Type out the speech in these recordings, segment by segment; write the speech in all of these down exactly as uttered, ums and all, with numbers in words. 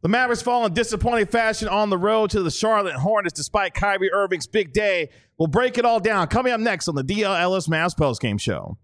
The Mavericks fall in disappointing fashion on the road to the Charlotte Hornets despite Kyrie Irving's big day. We'll break it all down coming up next on the D L Ellis Mavs postgame show.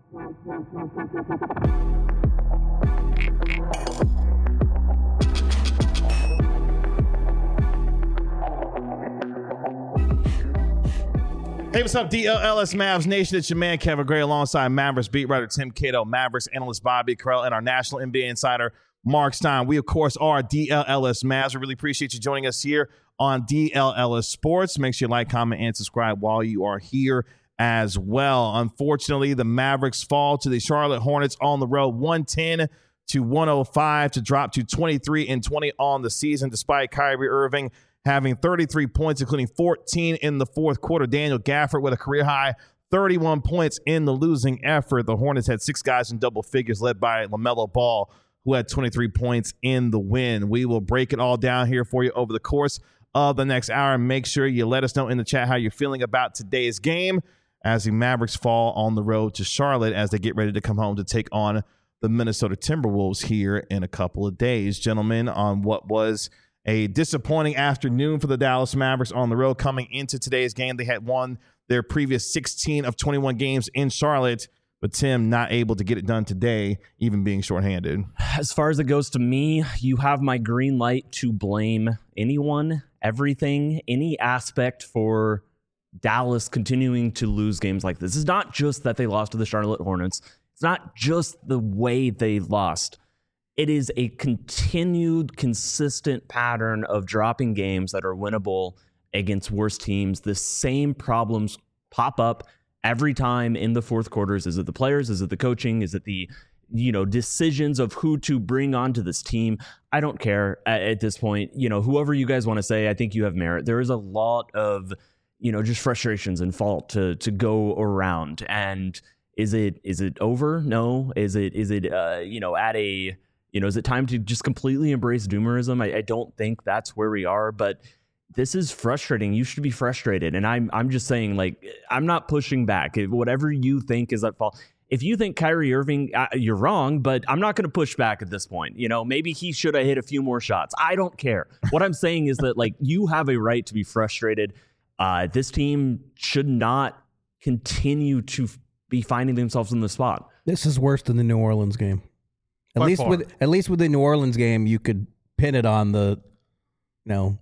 Hey, what's up, D L Ellis Mavs Nation? It's your man, Kevin Gray, alongside Mavericks beat writer Tim Cato, Mavericks analyst Bobby Carell, and our national N B A insider, Mark Stein. We, of course, are D L Ellis Mavs. We really appreciate you joining us here on D L Ellis Sports. Make sure you like, comment, and subscribe while you are here as well. Unfortunately, the Mavericks fall to the Charlotte Hornets on the road, one ten to one oh five to drop to twenty-three and twenty on the season, despite Kyrie Irving having thirty-three points, including fourteen in the fourth quarter. Daniel Gafford with a career-high thirty-one points in the losing effort. The Hornets had six guys in double figures, led by LaMelo Ball, who had twenty-three points in the win. We will break it all down here for you over the course of the next hour. Make sure you let us know in the chat how you're feeling about today's game as the Mavericks fall on the road to Charlotte as they get ready to come home to take on the Minnesota Timberwolves here in a couple of days. Gentlemen, on what was a disappointing afternoon for the Dallas Mavericks on the road coming into today's game. They had won their previous sixteen of twenty-one games in Charlotte, but Tim not able to get it done today, even being shorthanded. As far as it goes to me, you have my green light to blame anyone, everything, any aspect for Dallas continuing to lose games like this. It's not just that they lost to the Charlotte Hornets. It's not just the way they lost. It is a continued, consistent pattern of dropping games that are winnable against worse teams. The same problems pop up every time in the fourth quarters. Is it the players? Is it the coaching? Is it the, you know, decisions of who to bring onto this team? I don't care at, at this point. You know, whoever you guys want to say, I think you have merit. There is a lot of, you know, just frustrations and fault to to go around. And is it is it over? No. Is it is it uh, you know, at a You know, is it time to just completely embrace doomerism? I, I don't think that's where we are, but this is frustrating. You should be frustrated. And I'm I'm just saying, like, I'm not pushing back. If whatever you think is at fault. If you think Kyrie Irving, uh, you're wrong, but I'm not going to push back at this point. You know, maybe he should have hit a few more shots. I don't care. What I'm saying is that, like, you have a right to be frustrated. Uh, this team should not continue to f- be finding themselves in the spot. This is worse than the New Orleans game. At By least far. with at least with the New Orleans game, you could pin it on the, you know,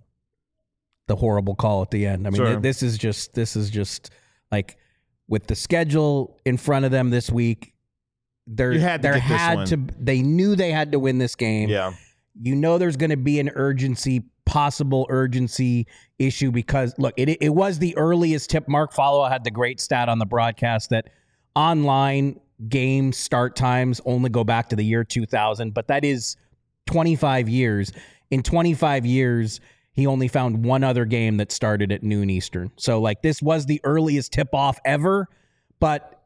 the horrible call at the end. I mean, Sure. th- this is just this is just like with the schedule in front of them this week. There, You had to there get this had one. to. They knew they had to win this game. Yeah. You know, there's going to be an urgency, possible urgency issue because look, it it was the earliest tip. Mark Follow had the great stat on the broadcast that online game start times only go back to the year two thousand, but that is twenty-five years. In twenty-five years, he only found one other game that started at noon Eastern. So, like, this was the earliest tip-off ever, but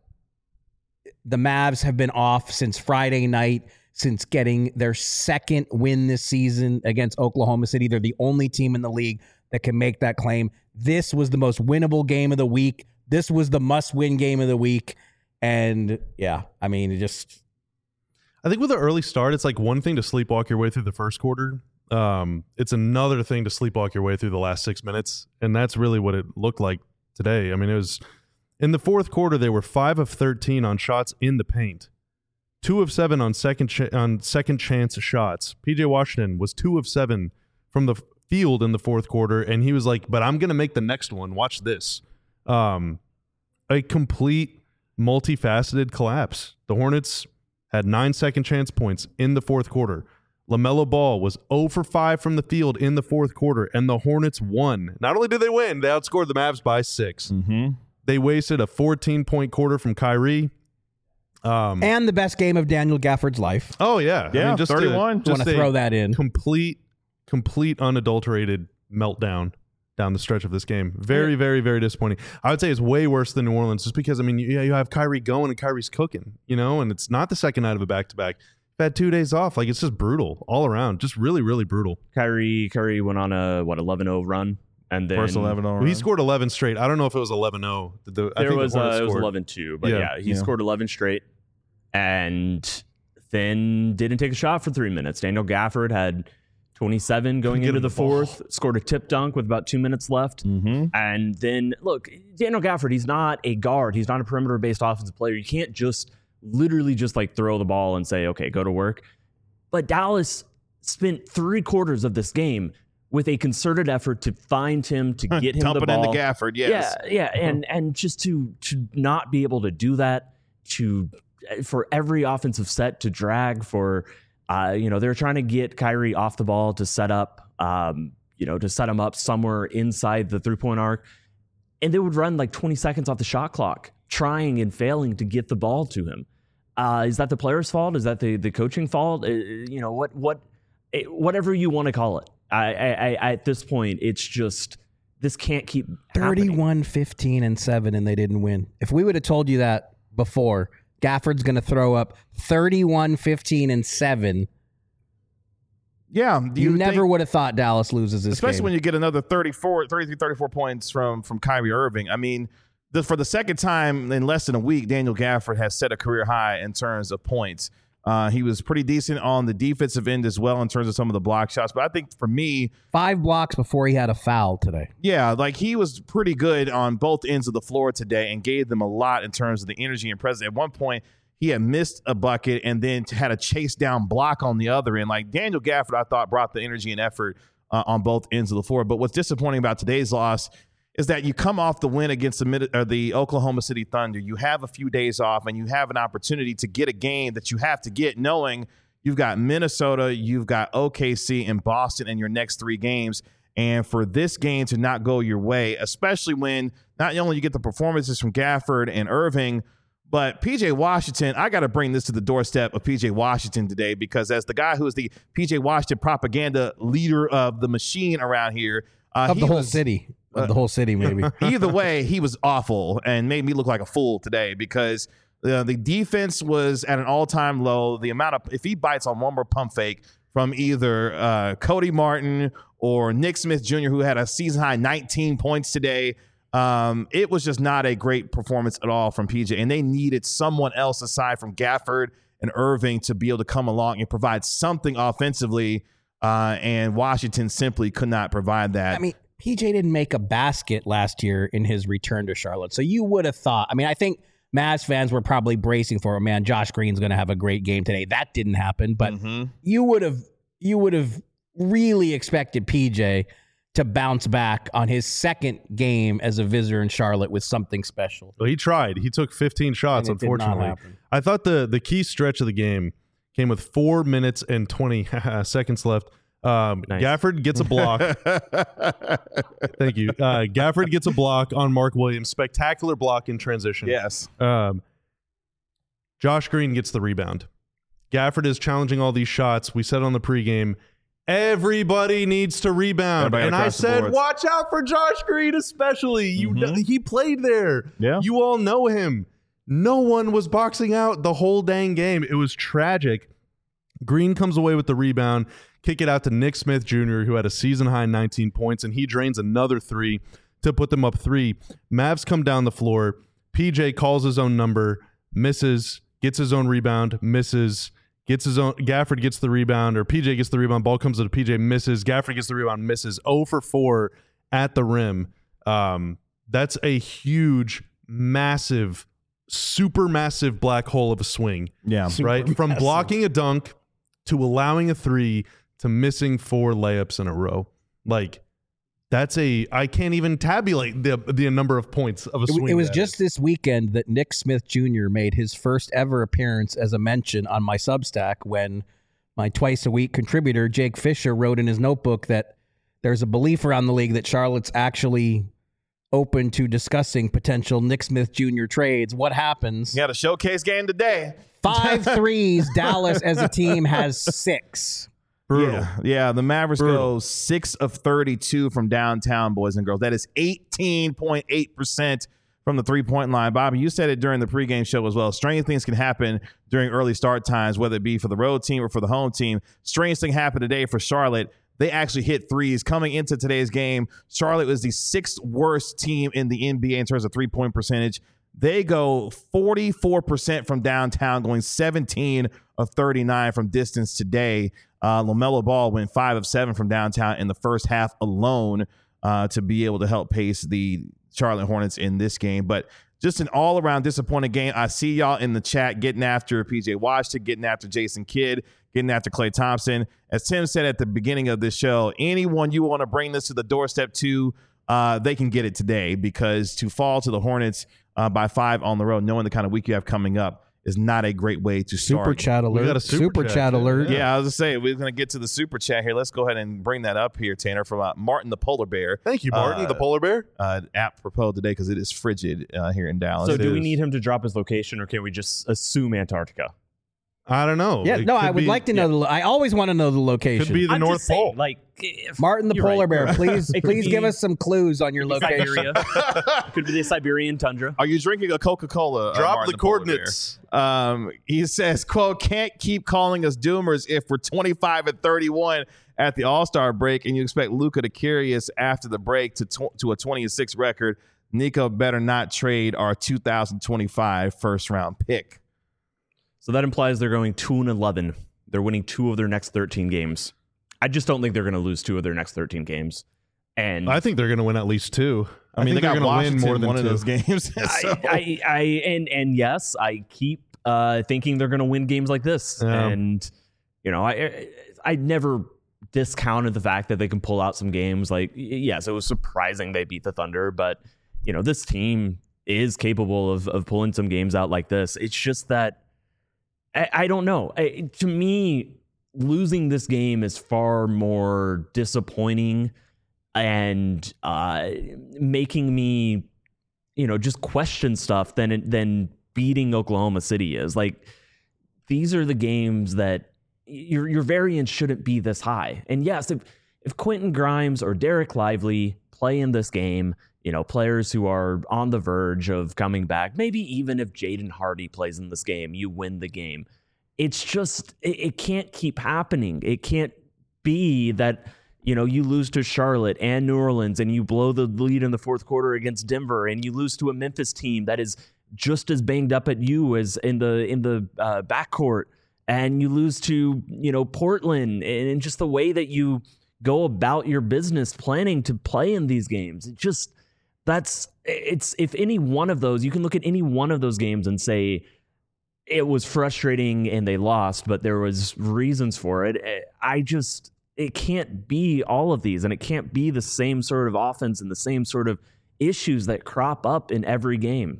the Mavs have been off since Friday night, since getting their second win this season against Oklahoma City. They're the only team in the league that can make that claim. This was the most winnable game of the week. This was the must-win game of the week. And yeah, I mean, it just. I think with an early start, it's like one thing to sleepwalk your way through the first quarter. Um, it's another thing to sleepwalk your way through the last six minutes. And that's really what it looked like today. I mean, it was in the fourth quarter, they were five of thirteen on shots in the paint, two of seven on second ch- on second chance shots. P J Washington was two of seven from the field in the fourth quarter. And he was like, but I'm going to make the next one. Watch this. Um, a complete multifaceted collapse. The Hornets had nine second chance points in the fourth quarter. LaMelo Ball was zero for five from the field in the fourth quarter, and the Hornets won. Not only did they win, they outscored the Mavs by six. Mm-hmm. They wasted a fourteen-point quarter from Kyrie. Um, and the best game of Daniel Gafford's life. oh, yeah. Yeah, I mean, just thirty-one. A, just Want to a throw that in. Complete, complete unadulterated meltdown down the stretch of this game. Very, very, very disappointing. I would say it's way worse than New Orleans just because, I mean, you, you have Kyrie going and Kyrie's cooking, you know, and it's not the second night of a back-to-back. You've had two days off. Like, it's just brutal all around. Just really, really brutal. Kyrie Kyrie went on a, what, eleven oh run? And then First eleven oh Well, he scored eleven straight. I don't know if it was eleven oh. The, I there think was the Hornets uh, it was scored. eleven two, but Yeah. yeah, he Yeah. scored eleven straight and then didn't take a shot for three minutes. Daniel Gafford had twenty-seven going Get into him the the ball. fourth, scored a tip dunk with about two minutes left. Mm-hmm. And then, look, Daniel Gafford, he's not a guard. He's not a perimeter-based offensive player. You can't just literally just like throw the ball and say, okay, go to work. But Dallas spent three quarters of this game with a concerted effort to find him, to get him Dump the it ball. into Gafford, yes. Yeah, yeah, and and just to to not be able to do that, to for every offensive set to drag, for uh, you know, they're trying to get Kyrie off the ball to set up, um, you know, to set him up somewhere inside the three point arc, and they would run like twenty seconds off the shot clock, trying and failing to get the ball to him. Uh, is that the player's fault? Is that the the coaching fault? Uh, you know, what what whatever you want to call it. I, I, I, at this point, it's just, this can't keep happening. thirty-one, fifteen, and seven, and they didn't win. If we would have told you that before, Gafford's going to throw up thirty-one, fifteen, and seven. Yeah. Do You, you never think- would have thought Dallas loses this especially game. when you get another thirty-four, thirty-three, thirty-four points from from Kyrie Irving. I mean, the, for the second time in less than a week, Daniel Gafford has set a career high in terms of points. Uh, he was pretty decent on the defensive end as well in terms of some of the block shots. But I think for me, Five blocks before he had a foul today. yeah, like he was pretty good on both ends of the floor today and gave them a lot in terms of the energy and presence. At one point, he had missed a bucket and then had a chase down block on the other end. Like Daniel Gafford, I thought brought the energy and effort uh, on both ends of the floor. But what's disappointing about today's loss is that you come off the win against the, Mid- or the Oklahoma City Thunder. You have a few days off and you have an opportunity to get a game that you have to get, knowing you've got Minnesota, you've got O K C and Boston in your next three games. And for this game to not go your way, especially when not only you get the performances from Gafford and Irving, but P J Washington, I got to bring this to the doorstep of P J Washington today, because as the guy who is the P J Washington propaganda leader of the machine around here, uh, Of he the whole was- city. Of the whole city, maybe. Either way, he was awful and made me look like a fool today, because uh, the defense was at an all-time low. The amount of, if he bites on one more pump fake from either uh, Cody Martin or Nick Smith Junior, who had a season-high nineteen points today, um, it was just not a great performance at all from P J. And they needed someone else aside from Gafford and Irving to be able to come along and provide something offensively, uh, and Washington simply could not provide that. I mean, P J didn't make a basket last year in his return to Charlotte. So you would have thought, I mean, I think Mavs fans were probably bracing for, man, Josh Green's going to have a great game today. That didn't happen, but Mhm. you would have you would have really expected P J to bounce back on his second game as a visitor in Charlotte with something special. Well, he tried. He took fifteen shots, And it did not unfortunately. happen. I thought the, the key stretch of the game came with four minutes and twenty seconds left. Um, Nice. Gafford gets a block. Thank you. Uh, Gafford gets a block on Mark Williams. Spectacular block in transition. Yes. Um, Josh Green gets the rebound. Gafford is challenging all these shots. We said on the pregame, everybody needs to rebound. Everybody And I across the said, boards. watch out for Josh Green especially. You Mhm. know, he played there. Yeah. You all know him. No one was boxing out the whole dang game. It was tragic. Green comes away with the rebound, kick it out to Nick Smith Junior, who had a season-high nineteen points, and he drains another three to put them up three. Mavs come down the floor. P J calls his own number, misses, gets his own rebound, misses, gets his own. Gafford gets the rebound, or P J gets the rebound. Ball comes to P J, misses. Gafford gets the rebound, misses. zero for four at the rim. Um, that's a huge, massive, super massive black hole of a swing. Yeah. Right? From massive. blocking a dunk to allowing a three to missing four layups in a row. Like, that's a, I can't even tabulate the the number of points of a It, swing. it was that just is. this weekend that Nick Smith Junior made his first ever appearance as a mention on my Substack, when my twice a week contributor, Jake Fisher, wrote in his notebook that there's a belief around the league that Charlotte's actually open to discussing potential Nick Smith Junior trades. What happens? You got a showcase game today. Five threes. Dallas as a team has six. brutal. Yeah, yeah. The Mavericks Brutal. go six of thirty-two from downtown, boys and girls. That is eighteen point eight percent from the three-point line. Bobby, you said it during the pregame show as well. Strange things can happen during early start times, whether it be for the road team or for the home team. Strange thing happened today for Charlotte. They actually hit threes. Coming into today's game, Charlotte was the sixth worst team in the N B A in terms of three-point percentage. They go forty-four percent from downtown, going seventeen of thirty-nine from distance today. Uh, LaMelo Ball went five of seven from downtown in the first half alone uh, to be able to help pace the Charlotte Hornets in this game. But just an all-around disappointing game. I see y'all in the chat getting after P J Washington, getting after Jason Kidd, getting after Klay Thompson. As Tim said at the beginning of this show, anyone you want to bring this to the doorstep to, uh, they can get it today, because to fall to the Hornets uh, by five on the road, knowing the kind of week you have coming up, is not a great way to start. Super chat alert. We got a super, super chat, chat alert. Yeah. yeah, I was going to say, we're going to get to the super chat here. Let's go ahead and bring that up here, Tanner, from uh, Martin the Polar Bear. Thank you, Martin, Uh, the polar bear. Uh, app proposed today because it is frigid uh, here in Dallas. So It do we is. need him to drop his location, or can we just assume Antarctica? I don't know. Yeah, It no, could I would be- like to know. The, lo- I always want to know the location. Could be the I'm North just saying, Pole. like if, Martin the you're Polar right. Bear, please, It could please be give us some clues on your location. Siberia. Could be the Siberian tundra. Are you drinking a Coca-Cola? uh, Drop Martin the Polar Bear? coordinates. Um, he says, quote, can't keep calling us doomers if we're twenty-five and thirty-one at the All-Star break and you expect Luka to carry us after the break to tw- to a twenty and six record. Nico better not trade our two thousand twenty-five first round pick. So that implies they're going two and eleven. They're winning two of their next thirteen games. I just don't think they're going to lose two of their next thirteen games. And I think they're going to win at least two. I, I mean, think they're they going got to win Washington more than one two. of those games. So- I, I, I, and and yes, I keep uh, thinking they're going to win games like this. Yeah. And you know, I, I I never discounted the fact that they can pull out some games. Like, yes, it was surprising they beat the Thunder, but you know, this team is capable of of pulling some games out like this. It's just that I, I don't know. I, to me, losing this game is far more disappointing and uh, making me, you know, just question stuff than than beating Oklahoma City is. Like, these are the games that your your variance shouldn't be this high. And yes, if if Quentin Grimes or Derek Lively play in this game, you know, players who are on the verge of coming back, maybe even if Jaden Hardy plays in this game, you win the game. It's just, it, it can't keep happening. It can't be that, you know, you lose to Charlotte and New Orleans and you blow the lead in the fourth quarter against Denver and you lose to a Memphis team that is just as banged up at you as in the in the uh, backcourt, and you lose to, you know, Portland, and just the way that you go about your business planning to play in these games. It just, that's, it's, if any one of those, you can look at any one of those games and say, it was frustrating and they lost, but there was reasons for it. I just, it can't be all of these, and it can't be the same sort of offense and the same sort of issues that crop up in every game.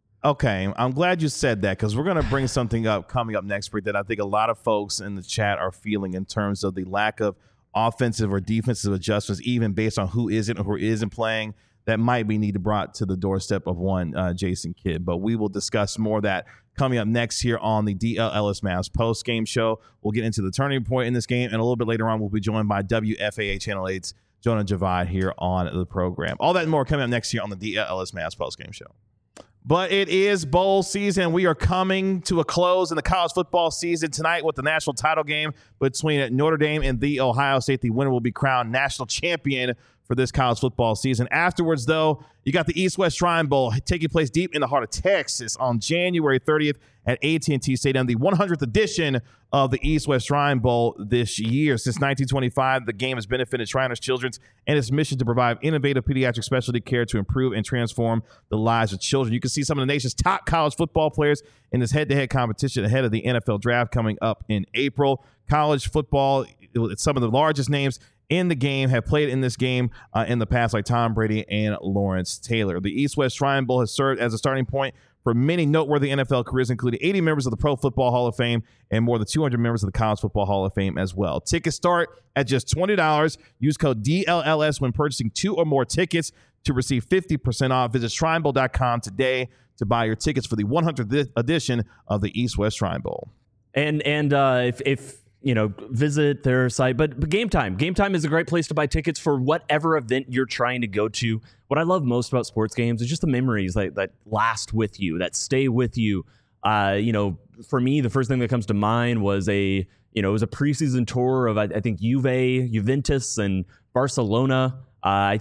Okay, I'm glad you said that, because we're going to bring something up coming up next week that I think a lot of folks in the chat are feeling in terms of the lack of offensive or defensive adjustments, even based on who isn't or who isn't playing, that might be needed brought to the doorstep of one uh, Jason Kidd. But we will discuss more of that coming up next here on the D L Ellis Mavs post-game show. We'll get into the turning point in this game, and a little bit later on, we'll be joined by W F A A Channel eight's Jonah Javad here on the program. All that and more coming up next year on the D L Ellis Mavs post-game show. But it is bowl season. We are coming to a close in the college football season tonight with the national title game between Notre Dame and the Ohio State. The winner will be crowned national champion for this college football season. Afterwards, though, you got the East-West Shrine Bowl taking place deep in the heart of Texas on January thirtieth at A T and T Stadium, the one hundredth edition of the East-West Shrine Bowl this year. Since nineteen twenty-five, the game has benefited Shriners Children's and its mission to provide innovative pediatric specialty care to improve and transform the lives of children. You can see some of the nation's top college football players in this head-to-head competition ahead of the N F L draft coming up in April. College football, some of the largest names in the game have played in this game uh, in the past, like Tom Brady and Lawrence Taylor. The East-West Shrine Bowl has served as a starting point for many noteworthy N F L careers, including eighty members of the Pro Football Hall of Fame and more than two hundred members of the College Football Hall of Fame as well. Tickets start at just twenty dollars. Use code D L L S when purchasing two or more tickets to receive fifty percent off. Visit shrine bowl dot com today to buy your tickets for the one hundredth edition of the East-West Shrine Bowl. And and uh, if if you know, visit their site. But, but Game Time. Game Time is a great place to buy tickets for whatever event you're trying to go to. What I love most about sports games is just the memories that, that last with you, that stay with you. Uh, you know, for me, the first thing that comes to mind was a, you know, it was a preseason tour of, I, I think, Juve, Juventus, and Barcelona. Uh, I think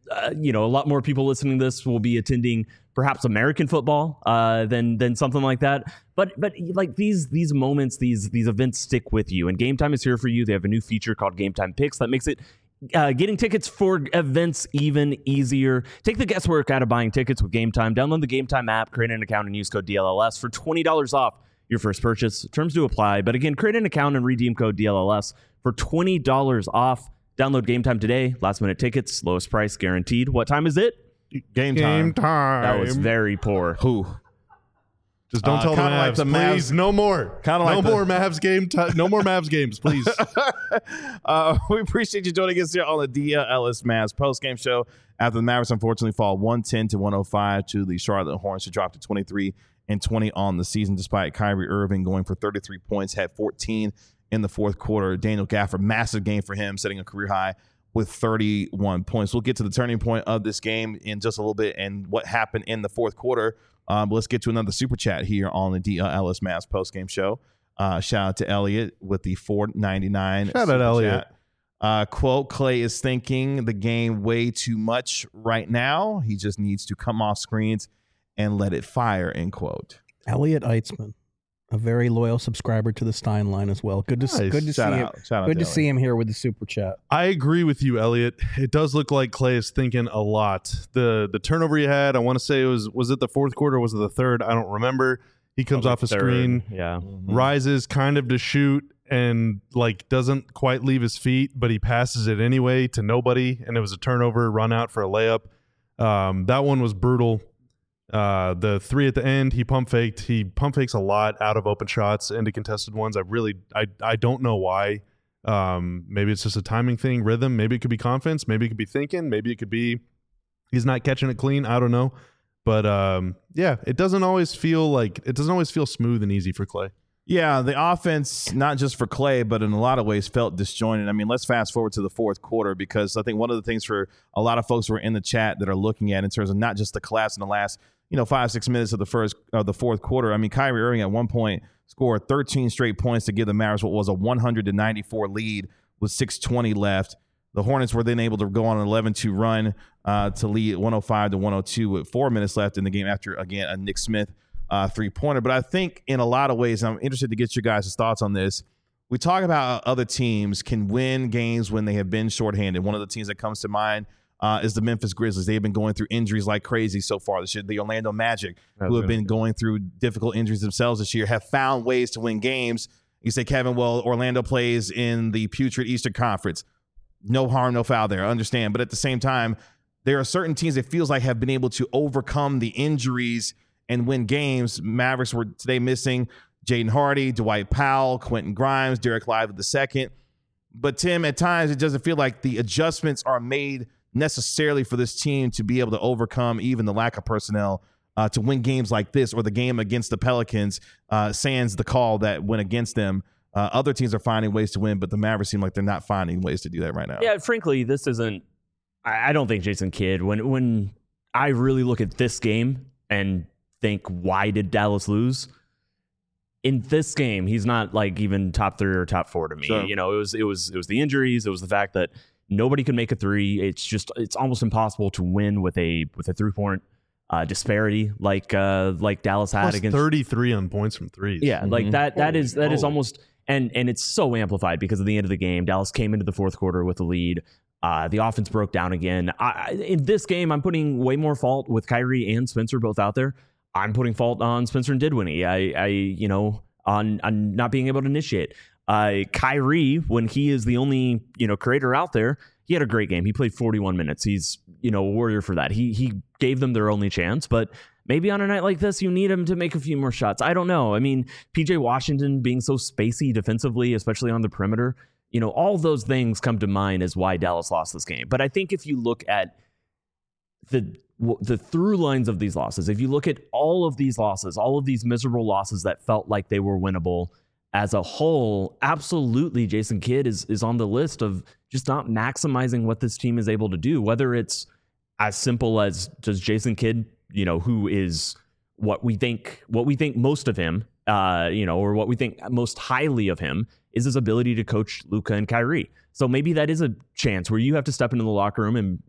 uh, you know, a lot more people listening to this will be attending perhaps American football uh, than than something like that. But but like these these moments, these these events stick with you. And Game Time is here for you. They have a new feature called Game Time Picks that makes it uh, getting tickets for events even easier. Take the guesswork out of buying tickets with Game Time. Download the Game Time app, create an account, and use code D L L S for twenty dollars off your first purchase. Terms do apply. But again, create an account and redeem code D L L S for twenty dollars off. Download Game Time today. Last minute tickets, lowest price guaranteed. What time is it? Game time. Game time. That was very poor. Who? Just don't Uh, tell the kinda Mavs, like the please. Mavs- No more. Kinda no like the- more Mavs game. T- no more Mavs games, please. uh, we appreciate you joining us here on the D L L S Mavs post-game show after the Mavericks unfortunately fall one ten to one oh five to the Charlotte Hornets, who dropped to twenty-three and twenty on the season despite Kyrie Irving going for thirty-three points, had fourteen in the fourth quarter. Daniel Gafford, massive game for him, setting a career high with thirty-one points. We'll get to the turning point of this game in just a little bit and what happened in the fourth quarter. Um, but let's get to another super chat here on the D L L S Mavs post-game show. Uh, shout out to Elliot with the four ninety-nine. Shout out, super Elliot. chat. Uh, quote, Clay is thinking the game way too much right now. He just needs to come off screens and let it fire, end quote. Elliot Eitzman, a very loyal subscriber to the Stein line as well. Good to Nice. good to Shout see out. him. Shout out Good to Elliot. see him here with the super chat. I agree with you, Elliot. It does look like Clay is thinking a lot. The the turnover he had, I want to say it was was it the fourth quarter or was it the third? I don't remember. He comes Probably off a third. screen, Yeah. rises kind of to shoot, and like doesn't quite leave his feet, but he passes it anyway to nobody, and it was a turnover, run out for a layup. Um, that one was brutal. Uh, the three at the end, he pump faked. He pump fakes a lot out of open shots into contested ones. I really, I, I don't know why. Um, maybe it's just a timing thing, rhythm. Maybe it could be confidence. Maybe it could be thinking. Maybe it could be he's not catching it clean. I don't know. But um, yeah, it doesn't always feel like it doesn't always feel smooth and easy for Clay. Yeah, the offense, not just for Clay, but in a lot of ways felt disjointed. I mean, let's fast forward to the fourth quarter, because I think one of the things for a lot of folks who are in the chat that are looking at in terms of not just the collapse in the last, you know, five, six minutes of the first of the fourth quarter. I mean, Kyrie Irving at one point scored thirteen straight points to give the Mavericks what was a one hundred ninety-four lead with six twenty left. The Hornets were then able to go on an eleven two run uh, to lead one oh five to one oh two with four minutes left in the game after, again, a Nick Smith uh, three-pointer. But I think in a lot of ways, I'm interested to get your guys' thoughts on this. We talk about how other teams can win games when they have been shorthanded. One of the teams that comes to mind uh, is the Memphis Grizzlies. They've been going through injuries like crazy so far this year. The Orlando Magic, who have been going through difficult injuries themselves this year, have found ways to win games. You say, Kevin, well, Orlando plays in the putrid Eastern Conference. No harm, no foul there. I understand. But at the same time, there are certain teams that feels like have been able to overcome the injuries and win games. Mavericks were today missing Jaden Hardy, Dwight Powell, Quentin Grimes, Derek Lively the second. But Tim, at times it doesn't feel like the adjustments are made necessarily for this team to be able to overcome even the lack of personnel uh, to win games like this, or the game against the Pelicans, uh, sans the call that went against them. Uh, other teams are finding ways to win, but the Mavericks seem like they're not finding ways to do that right now. Yeah, frankly, this isn't. I I don't think Jason Kidd. When when I really look at this game and think, why did Dallas lose? In this game, he's not like even top three or top four to me. Sure. You know, it was it was it was the injuries. It was the fact that nobody could make a three. It's just it's almost impossible to win with a with a three point uh, disparity like uh, like Dallas had Plus against thirty-three on points from threes. Yeah, Mhm. like that. That Holy is that is moly. almost and and it's so amplified because of the end of the game. Dallas came into the fourth quarter with the lead. Uh, the offense broke down again. I, in this game, I'm putting way more fault with Kyrie and Spencer both out there. I'm putting fault on Spencer and Didwinnie. I, I you know, on on not being able to initiate. Uh, Kyrie, when he is the only you know creator out there, he had a great game. He played forty-one minutes. He's you know a warrior for that. He he gave them their only chance, but. Maybe on a night like this, you need him to make a few more shots. I don't know. I mean, P J Washington being so spacey defensively, especially on the perimeter, you know, all those things come to mind as why Dallas lost this game. But I think if you look at the the through lines of these losses, if you look at all of these losses, all of these miserable losses that felt like they were winnable as a whole, absolutely Jason Kidd is is on the list of just not maximizing what this team is able to do, whether it's as simple as does Jason Kidd, you know, who is what we think, what we think most of him, uh, you know, or what we think most highly of him is his ability to coach Luka and Kyrie. So maybe that is a chance where you have to step into the locker room and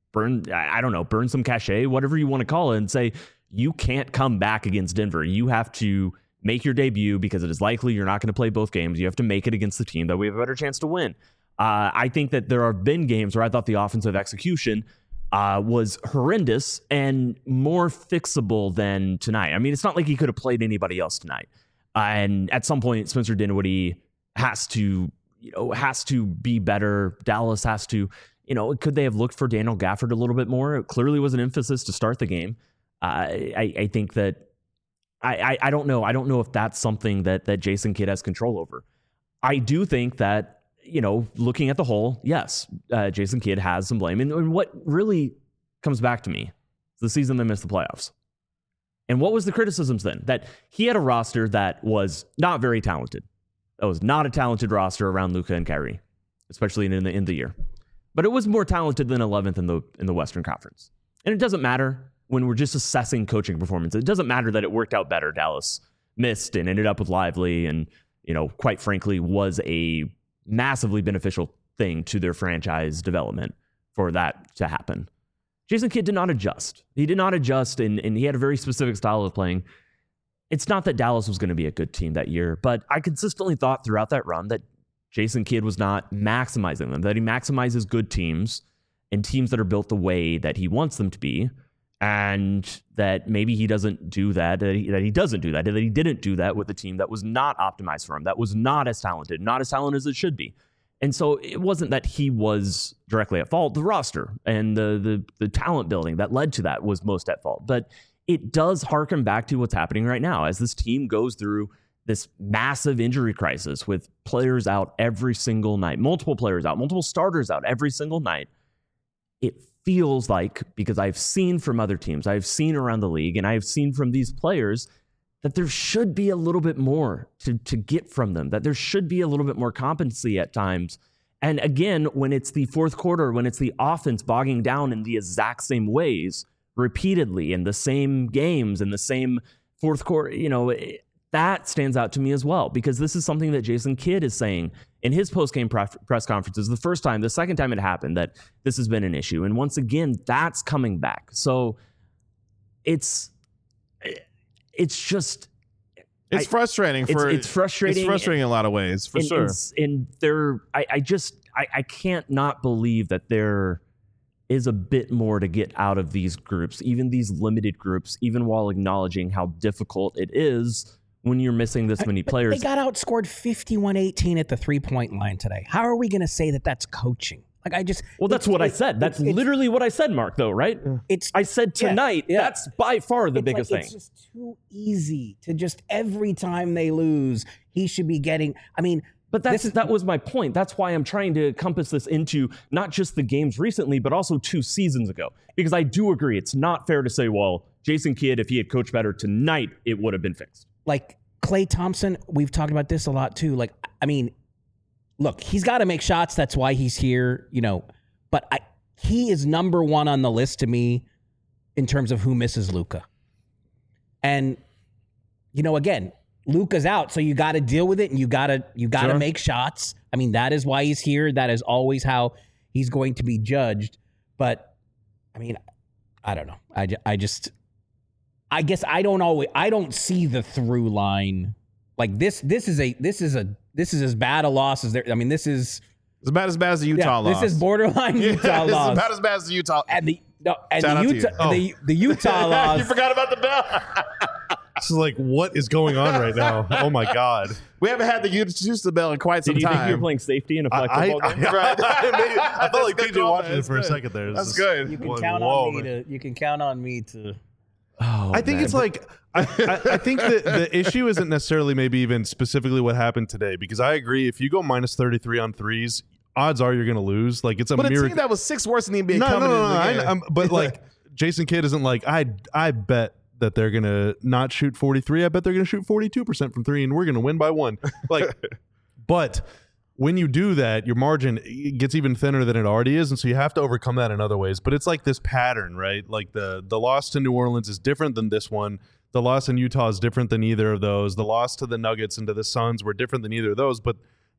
burn, I don't know, burn some cachet, whatever you want to call it, and say, you can't come back against Denver. You have to make your debut because it is likely you're not going to play both games. You have to make it against the team that we have a better chance to win. Uh, I think that there have been games where I thought the offensive execution uh, was horrendous and more fixable than tonight. I mean, it's not like he could have played anybody else tonight. Uh, and at some point, Spencer Dinwiddie has to, you know, has to be better. Dallas has to, you know, could they have looked for Daniel Gafford a little bit more? It clearly was an emphasis to start the game. Uh, I, I think that I, I I don't know. I don't know if that's something that that Jason Kidd has control over. I do think that, you know, looking at the whole, yes, uh, Jason Kidd has some blame. And, and what really comes back to me is the season they missed the playoffs. And what was the criticisms then? That he had a roster that was not very talented. That was not a talented roster around Luka and Kyrie, especially in the end of the year. But it was more talented than eleventh in the in the Western Conference. And it doesn't matter when we're just assessing coaching performance. It doesn't matter that it worked out better. Dallas missed and ended up with Lively and, you know, quite frankly, was a massively beneficial thing to their franchise development for that to happen. Jason Kidd did not adjust. He did not adjust, and, and he had a very specific style of playing. It's not that Dallas was going to be a good team that year, but I consistently thought throughout that run that Jason Kidd was not maximizing them, that he maximizes good teams and teams that are built the way that he wants them to be, and that maybe he doesn't do that, that he, that he doesn't do that, that he didn't do that with a team that was not optimized for him, that was not as talented, not as talented as it should be. And so it wasn't that he was directly at fault. The roster and the the the talent building that led to that was most at fault. But it does harken back to what's happening right now as this team goes through this massive injury crisis with players out every single night, multiple players out, multiple starters out every single night. It feels like, because I've seen from other teams, I've seen around the league, and I've seen from these players that there should be a little bit more to, to get from them, that there should be a little bit more competency at times. And again, when it's the fourth quarter, when it's the offense bogging down in the exact same ways, repeatedly in the same games, in the same fourth quarter, you know, it, that stands out to me as well, because this is something that Jason Kidd is saying in his post-game press conferences. The first time, the second time it happened, that this has been an issue. And once again, that's coming back. So it's, it's just, it's I, frustrating for, it's, it's frustrating. It's frustrating in a lot of ways, for and, sure. And, and there, I, I just, I, I can't not believe that there is a bit more to get out of these groups, even these limited groups, even while acknowledging how difficult it is when you're missing this many but players. They got outscored fifty-one eighteen at the three-point line today. How are we going to say that that's coaching? Like I just Well, that's what I said. That's it's, literally what I said, Mark, though, right? It's I said tonight, yeah, yeah. that's by far the it's biggest like, thing. It's just too easy to just every time they lose, he should be getting, I mean, But that's, is, that was my point. That's why I'm trying to compass this into not just the games recently, but also two seasons ago. Because I do agree, it's not fair to say, well, Jason Kidd, if he had coached better tonight, it would have been fixed. Like Klay Thompson, we've talked about this a lot too. Like, I mean, look, he's got to make shots. That's why he's here, you know. But I, he is number one on the list to me in terms of who misses Luka. And, you know, again, Luka's out, so you got to deal with it, and you got to you got to Sure. make shots. I mean, that is why he's here. That is always how he's going to be judged. But I mean, I don't know. I, ju- I just, I guess I don't always, I don't see the through line. Like this, this is a, this is a, this is as bad a loss as there. I mean, this is It's about as bad as the Utah yeah, loss. This is borderline Yeah, Utah this loss. is about as bad as the Utah. and the no, and Shout out the to Utah, you. Oh. the, the Utah loss. You forgot about the bell. This is like, what is going on right now? Oh my God. We haven't had the Utah bell in quite some Did you time. think you were playing safety in a flag I, football I, game? I, Right. maybe- I felt like That's P good J call, watching man. it for a That's good. second there. It was That's just good. You can like, count whoa, on me man. to. You can count on me to. Oh, I think man. it's like I, I, I think that the issue isn't necessarily maybe even specifically what happened today, because I agree, if you go minus thirty-three on threes, odds are you're going to lose. Like it's a But a miracle. team that was six worse than the N B A no, no, coming no, no, into the I- game. I'm- but like Jason Kidd isn't like I. I bet that they're going to not shoot forty-three. I bet they're going to shoot forty-two percent from three, and we're going to win by one. Like, but when you do that, your margin gets even thinner than it already is, and so you have to overcome that in other ways. But it's like this pattern, right? Like the the loss to New Orleans is different than this one. The loss in Utah is different than either of those. The loss to the Nuggets and to the Suns were different than either of those. But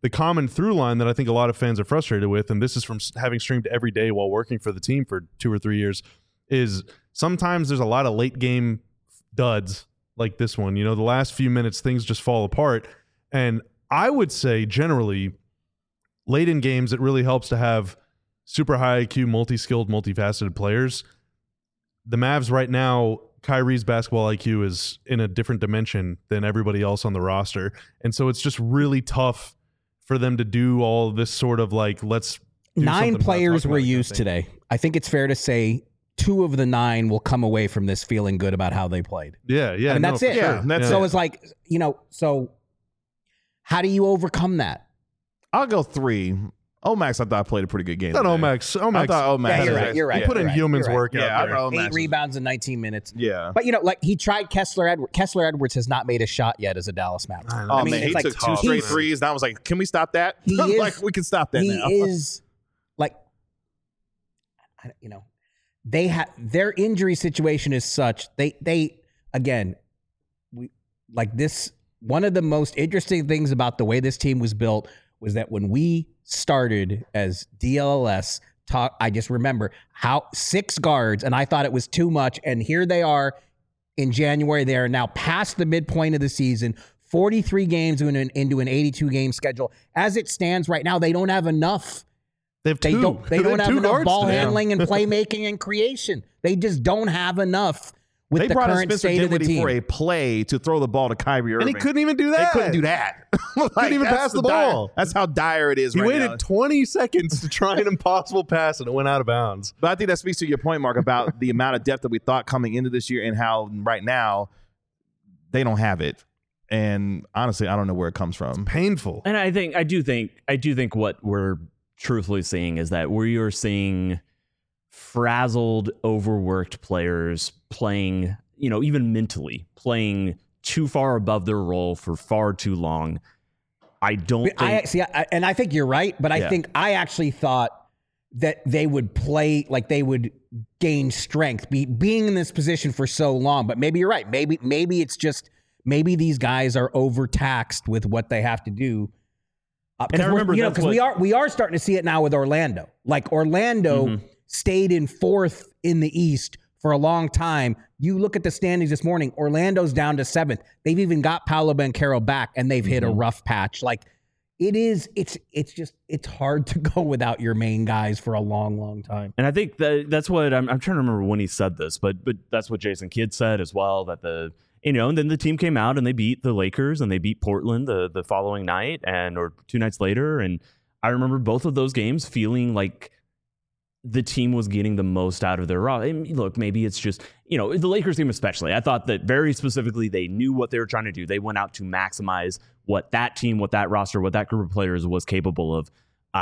the common through line that I think a lot of fans are frustrated with, and this is from having streamed every day while working for the team for two or three years, is sometimes there's a lot of late game duds like this one. You know, the last few minutes, things just fall apart. And I would say generally, late in games, it really helps to have super high I Q, multi-skilled, multifaceted players. The Mavs right now, Kyrie's basketball I Q is in a different dimension than everybody else on the roster. And so it's just really tough for them to do all this sort of like, let's do Nine something players about were it kind of used thing. today. I think it's fair to say two of the nine will come away from this feeling good about how they played. Yeah, yeah. And no, that's for it. sure. Yeah, that's So it. it's like, you know, so how do you overcome that? I'll go three. Omax, I thought played a pretty good game. Not today. Omax. I Omax. thought Omax. Yeah, you're had right, a- you're right. Yeah, Put in You're right, humans you're right. work Yeah, out I there. thought Eight Omax. rebounds in nineteen minutes. Yeah. But, you know, like he tried Kessler Edwards. Kessler Edwards has not made a shot yet as a Dallas Maverick. I know. Oh I mean, man, it's he like took two tough, straight man. threes, and I was like, "Can we stop that? He is- like, we can stop that he now." is like, I- you know, they have their injury situation is such they they again, we like this. One of the most interesting things about the way this team was built was that when we started as D L L S, talk, I just remember how six guards, and I thought it was too much. And here they are in January. They are now past the midpoint of the season. forty-three games into an, into an eighty-two game schedule. As it stands right now, they don't have enough. They have They two. don't. They don't have have two enough guards ball today. handling and playmaking and creation. They just don't have enough with They the brought in current Spencer state of the Dinwiddie team. for a play to throw the ball to Kyrie Irving. And he couldn't even do They that. couldn't do that. Like, Couldn't even that's pass the dire- ball. That's how dire it is. He right waited now. twenty seconds to try an impossible pass, and it went out of bounds. But I think that speaks to your point, Mark, about the amount of depth that we thought coming into this year and how right now they don't have it. And honestly, I don't know where it comes from. Painful. And I think I do think I do think what we're truthfully seeing is that we are seeing frazzled, overworked players playing, you know, even mentally playing too far above their role for far too long. I don't But think I see, I, and I think you're right. But I Yeah. think I actually thought that they would play like they would gain strength, be, being in this position for so long. But maybe you're right. Maybe maybe it's just maybe these guys are overtaxed with what they have to do. Uh, And I we're- remember you know, that's because we what- are we are starting to see it now with Orlando. Like Orlando Mhm. stayed in fourth in the East for a long time. You look at the standings this morning. Orlando's down to seventh. They've even got Paolo Banchero back, and they've hit a Mhm. rough patch. Like it is, it's it's just it's hard to go without your main guys for a long, long time. And I think that that's what I'm, I'm trying to remember when he said this, but but that's what Jason Kidd said as well. That the you know, and then the team came out and they beat the Lakers and they beat Portland the the following night and or two nights later. And I remember both of those games feeling like the team was getting the most out of their raw. I mean, look, maybe it's just, you know, the Lakers team especially. I thought that very specifically they knew what they were trying to do. They went out to maximize what that team, what that roster, what that group of players was capable of.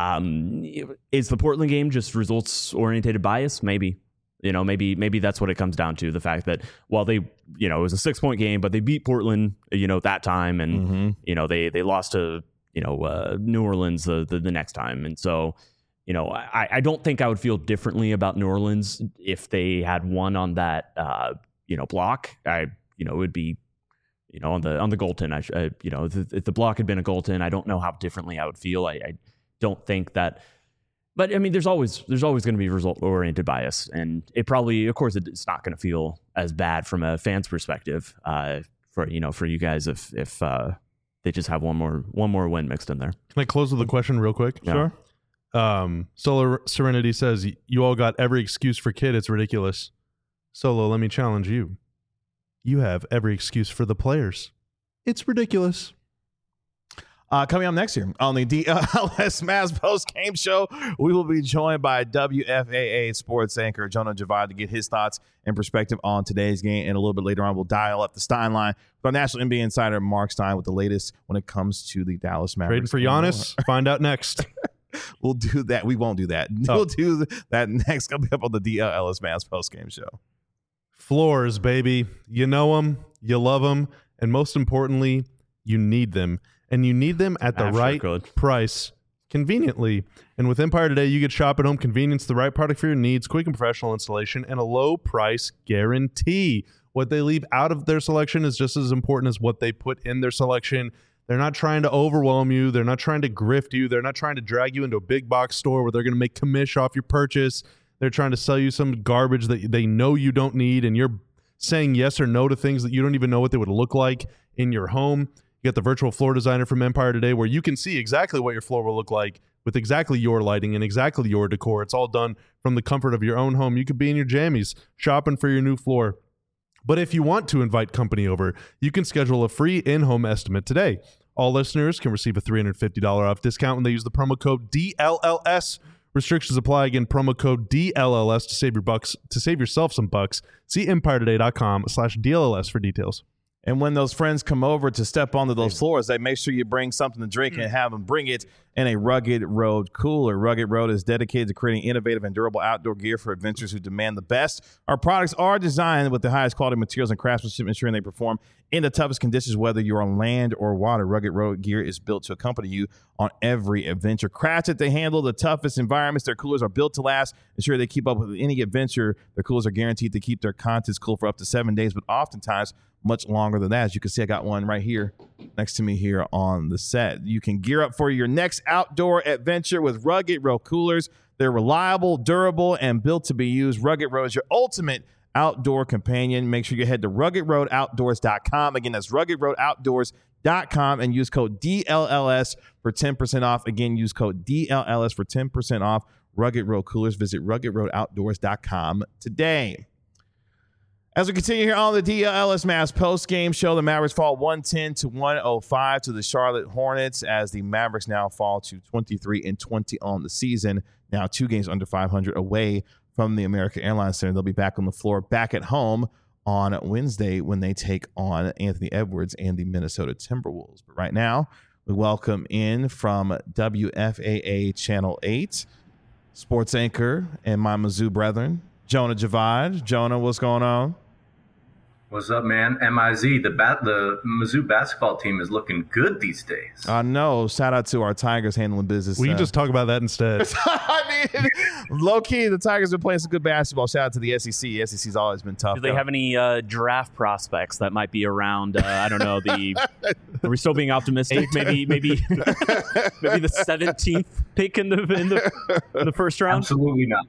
Um, is the Portland game just results oriented bias? Maybe. You know, maybe maybe that's what it comes down to. The fact that while they, you know, it was a six point game, but they beat Portland, you know, that time, and Mm-hmm. you know they they lost to you know uh, New Orleans the, the the next time, and so you know I I don't think I would feel differently about New Orleans if they had won on that uh, you know block. I you know it would be you know on the on the goaltend. I, sh- I you know if, if the block had been a goaltend, I don't know how differently I would feel. I, I don't think that. But I mean, there's always there's always going to be result oriented bias, and it probably, of course, it's not going to feel as bad from a fan's perspective uh, for you know for you guys if if uh, they just have one more one more win mixed in there. Can I close with a question real quick? Yeah. Sure. Um, Solar Serenity says, you all got every excuse for Kid. It's ridiculous. Solo, let me challenge you. You have every excuse for the players. It's ridiculous. Uh, coming up next year on the D L S Mavs post game show, we will be joined by W F A A sports anchor Jonah Javad to get his thoughts and perspective on today's game. And a little bit later on, we'll dial up the Stein line with our national N B A insider Mark Stein with the latest when it comes to the Dallas Mavericks. Trading for Giannis. Find out next. We'll do that. We won't do that. Oh. We'll do that next. Coming up on the D L S Mavs post game show. Floors, baby. You know them, you love them, and most importantly, you need them. And you need them at the Ah, sure, right good. price, conveniently. And with Empire Today, you get shop at home convenience, the right product for your needs, quick and professional installation, and a low price guarantee. What they leave out of their selection is just as important as what they put in their selection. They're not trying to overwhelm you. They're not trying to grift you. They're not trying to drag you into a big box store where they're going to make commish off your purchase. They're trying to sell you some garbage that they know you don't need, and you're saying yes or no to things that you don't even know what they would look like in your home. You got the virtual floor designer from Empire Today where you can see exactly what your floor will look like with exactly your lighting and exactly your decor. It's all done from the comfort of your own home. You could be in your jammies shopping for your new floor. But if you want to invite company over, you can schedule a free in-home estimate today. All listeners can receive a three hundred fifty dollars off discount when they use the promo code D L L S. Restrictions apply. Again, promo code D L L S to save your bucks, to save yourself some bucks. See empire today dot com slash D L L S for details. And when those friends come over to step onto those floors, they make sure you bring something to drink and have them bring it in a Rugged Road cooler. Rugged Road is dedicated to creating innovative and durable outdoor gear for adventurers who demand the best. Our products are designed with the highest quality materials and craftsmanship, ensuring they perform in the toughest conditions, whether you're on land or water. Rugged Road gear is built to accompany you on every adventure. Crafted to handle the toughest environments, their coolers are built to last. Ensure they keep up with any adventure. Their coolers are guaranteed to keep their contents cool for up to seven days, but oftentimes much longer than that. As you can see, I got one right here next to me here on the set. You can gear up for your next outdoor adventure with Rugged Road coolers. They're reliable, durable, and built to be used. Rugged Road is your ultimate outdoor companion. Make sure you head to rugged road outdoors dot com. Again, that's rugged road outdoors dot com and use code D L L S for ten percent off. Again, use code D L L S for ten percent off Rugged Road coolers. Visit rugged road outdoors dot com today. As we continue here on the D L L S Mavs post-game show, the Mavericks fall one ten to one oh five to the Charlotte Hornets as the Mavericks now fall to twenty-three and twenty on the season, now two games under five hundred away from the American Airlines Center. They'll be back on the floor, back at home on Wednesday when they take on Anthony Edwards and the Minnesota Timberwolves. But right now, we welcome in from W F A A Channel eight, sports anchor and my Mizzou brethren, Jonah Javad. Jonah, what's going on? What's up, man? M I Z, the bat, the Mizzou basketball team is looking good these days. I know. Shout out to our Tigers handling business. We can uh, just talk about that instead. I mean, low key, the Tigers have been playing some good basketball. Shout out to the S E C. S E C's always been tough. Do they though. have any uh, draft prospects that might be around? Uh, I don't know. The are we still being optimistic? maybe, maybe, maybe the seventeenth pick in the in the, in the first round. Absolutely not.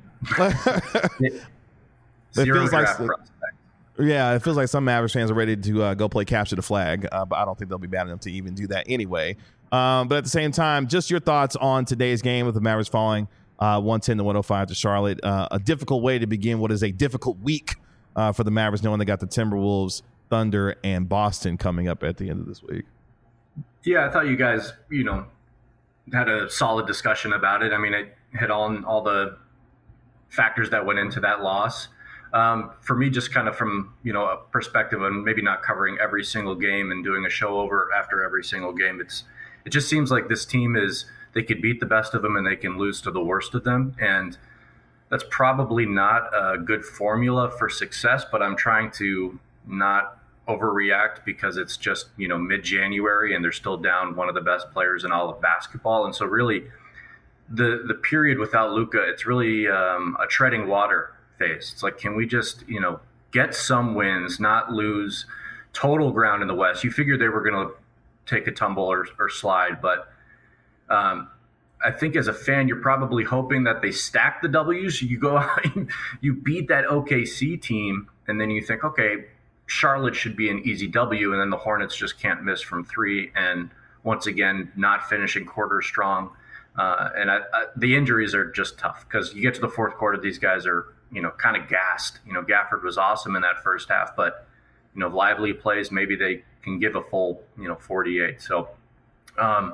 Zero feels draft like- prospect. Yeah, it feels like some Mavericks fans are ready to uh, go play capture the flag, uh, but I don't think they'll be bad enough to even do that anyway. Um, but at the same time, just your thoughts on today's game with the Mavericks falling uh, one ten to one oh five to Charlotte. Uh, a difficult way to begin what is a difficult week uh, for the Mavericks, knowing they got the Timberwolves, Thunder, and Boston coming up at the end of this week. Yeah, I thought you guys, you know, had a solid discussion about it. I mean, it hit on all the factors that went into that loss. Um, for me, just kind of from, you know, a perspective of maybe not covering every single game and doing a show over after every single game, it's it just seems like this team is, they could beat the best of them and they can lose to the worst of them. And that's probably not a good formula for success, but I'm trying to not overreact because it's just, you know, mid-January and they're still down one of the best players in all of basketball. And so really the, the period without Luka, it's really um, a treading water phase. It's like, can we just, you know, get some wins, not lose total ground in the West? You figured they were going to take a tumble or, or slide, but um, I think as a fan, you're probably hoping that they stack the W's. You go out, you beat that O K C team, and then you think, okay, Charlotte should be an easy W, and then the Hornets just can't miss from three, and once again, not finishing quarter strong. Uh, and I, I, the injuries are just tough because you get to the fourth quarter, these guys are, you know, kind of gassed. You know, Gafford was awesome in that first half, but, you know, Lively plays, maybe they can give a full, you know, forty-eight. So um,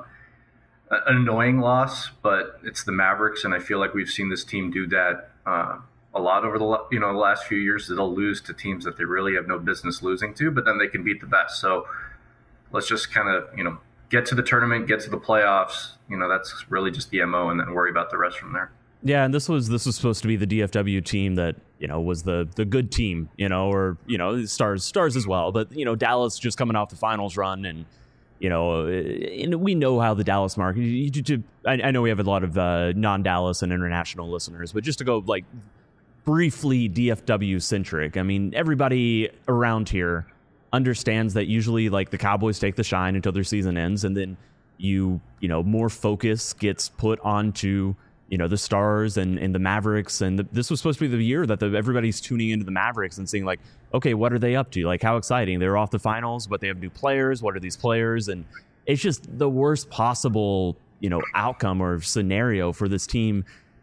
an annoying loss, but it's the Mavericks, and I feel like we've seen this team do that uh, a lot over the, you know, the last few years. They'll lose to teams that they really have no business losing to, but then they can beat the best. So let's just kind of, you know, get to the tournament, get to the playoffs. You know, that's really just the M O, and then worry about the rest from there. Yeah, and this was this was supposed to be the D F W team that, you know, was the the good team, you know, or, you know, stars stars as well. But, you know, Dallas just coming off the finals run, and, you know, and we know how the Dallas market. You, you, I, I know we have a lot of uh, non-Dallas and international listeners, but just to go like briefly D F W centric. I mean, everybody around here understands that usually like the Cowboys take the shine until their season ends, and then you you know more focus gets put onto you know the Stars and, and the Mavericks, and the, this was supposed to be the year that the, everybody's tuning into the Mavericks and seeing like, okay, what are they up to? Like, how exciting! They're off the finals, but they have new players. What are these players? And it's just the worst possible you know outcome or scenario for this team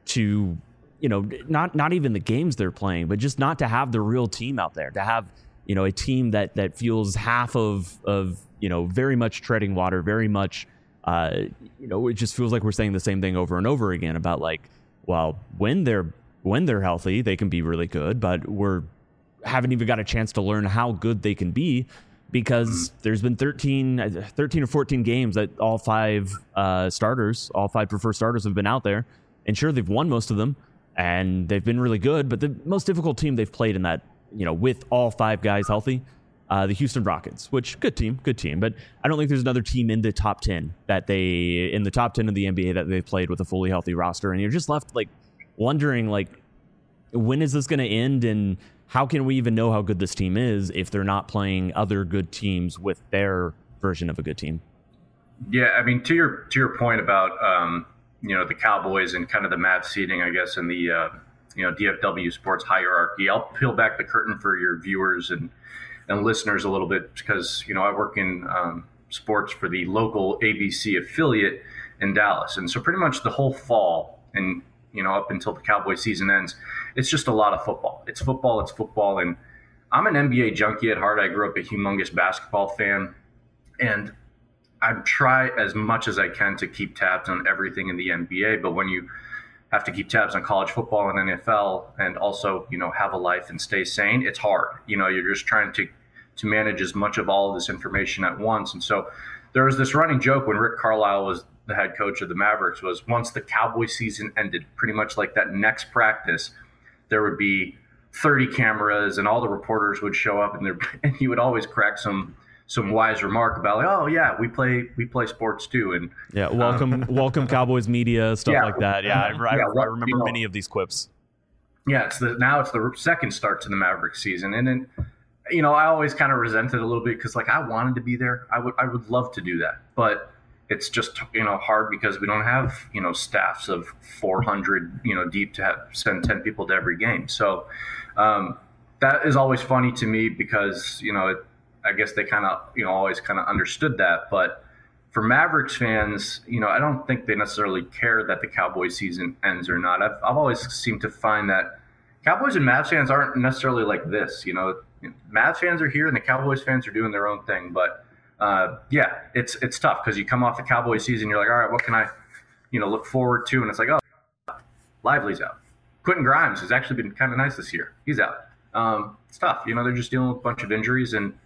to you know not not even the games they're playing, but just not to have the real team out there, to have you know a team that that feels half of of you know very much treading water, very much. Uh, you know, it just feels like we're saying the same thing over and over again about like, well, when they're when they're healthy, they can be really good, but we're haven't even got a chance to learn how good they can be because there's been thirteen, thirteen or fourteen games that all five uh, starters, all five preferred starters have been out there, and sure they've won most of them and they've been really good, but the most difficult team they've played in that, you know, with all five guys healthy. Uh, the Houston Rockets, which good team, good team, but I don't think there's another team in the top ten that they in the top ten of the N B A that they've played with a fully healthy roster, and you're just left like wondering like when is this going to end, and how can we even know how good this team is if they're not playing other good teams with their version of a good team? Yeah, I mean to your to your point about um, you know the Cowboys and kind of the Mavs seeding, I guess in the uh, you know D F W sports hierarchy. I'll peel back the curtain for your viewers and. and listeners a little bit because, you know, I work in um, sports for the local A B C affiliate in Dallas. And so pretty much the whole fall and, you know, up until the Cowboy season ends, it's just a lot of football. It's football, it's football. And I'm an N B A junkie at heart. I grew up a humongous basketball fan. And I try as much as I can to keep tabs on everything in the N B A. But when you have to keep tabs on college football and N F L and also, you know, have a life and stay sane, it's hard. You know, you're just trying to to manage as much of all of this information at once. And so there was this running joke when Rick Carlisle was the head coach of the Mavericks was once the Cowboy season ended, pretty much like that next practice, there would be thirty cameras and all the reporters would show up and, and he would always crack some some wise remark about like, oh yeah, we play we play sports too, and yeah, welcome um, welcome Cowboys media stuff yeah, like that. Yeah, I, I, yeah, I remember you know, many of these quips. Yeah, it's the now it's the second start to the Mavericks season, and then you know I always kind of resented a little bit because like I wanted to be there. I would I would love to do that, but it's just you know hard because we don't have you know staffs of four hundred you know deep to have, send ten people to every game. So um, that is always funny to me because you know. It, I guess they kind of, you know, always kind of understood that. But for Mavericks fans, you know, I don't think they necessarily care that the Cowboys season ends or not. I've, I've always seemed to find that Cowboys and Mavs fans aren't necessarily like this. You know, Mavs fans are here and the Cowboys fans are doing their own thing. But uh, yeah, it's it's tough because you come off the Cowboys season, you're like, all right, what can I, you know, look forward to? And it's like, oh, Lively's out. Quentin Grimes has actually been kind of nice this year. He's out. Um, it's tough. You know, they're just dealing with a bunch of injuries and.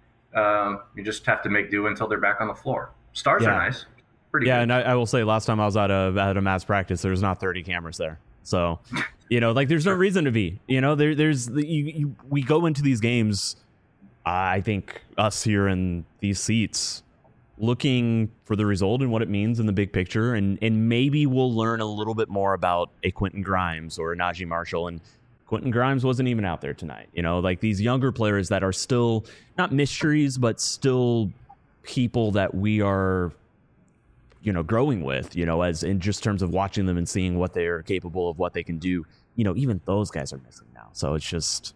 Um, you just have to make do until they're back on the floor. Stars yeah. are nice. Pretty yeah, good. and I, I will say last time I was at a at a Mavs practice, there was not thirty cameras there. So, you know, like there's no reason to be. You know, there there's you, you, we go into these games. Uh, I think us here in these seats, looking for the result and what it means in the big picture, and and maybe we'll learn a little bit more about a Quentin Grimes or a Najee Marshall. And Quentin Grimes wasn't even out there tonight. You know, like these younger players that are still not mysteries, but still people that we are, you know, growing with, you know, as in just terms of watching them and seeing what they are capable of, what they can do. You know, even those guys are missing now. So it's just,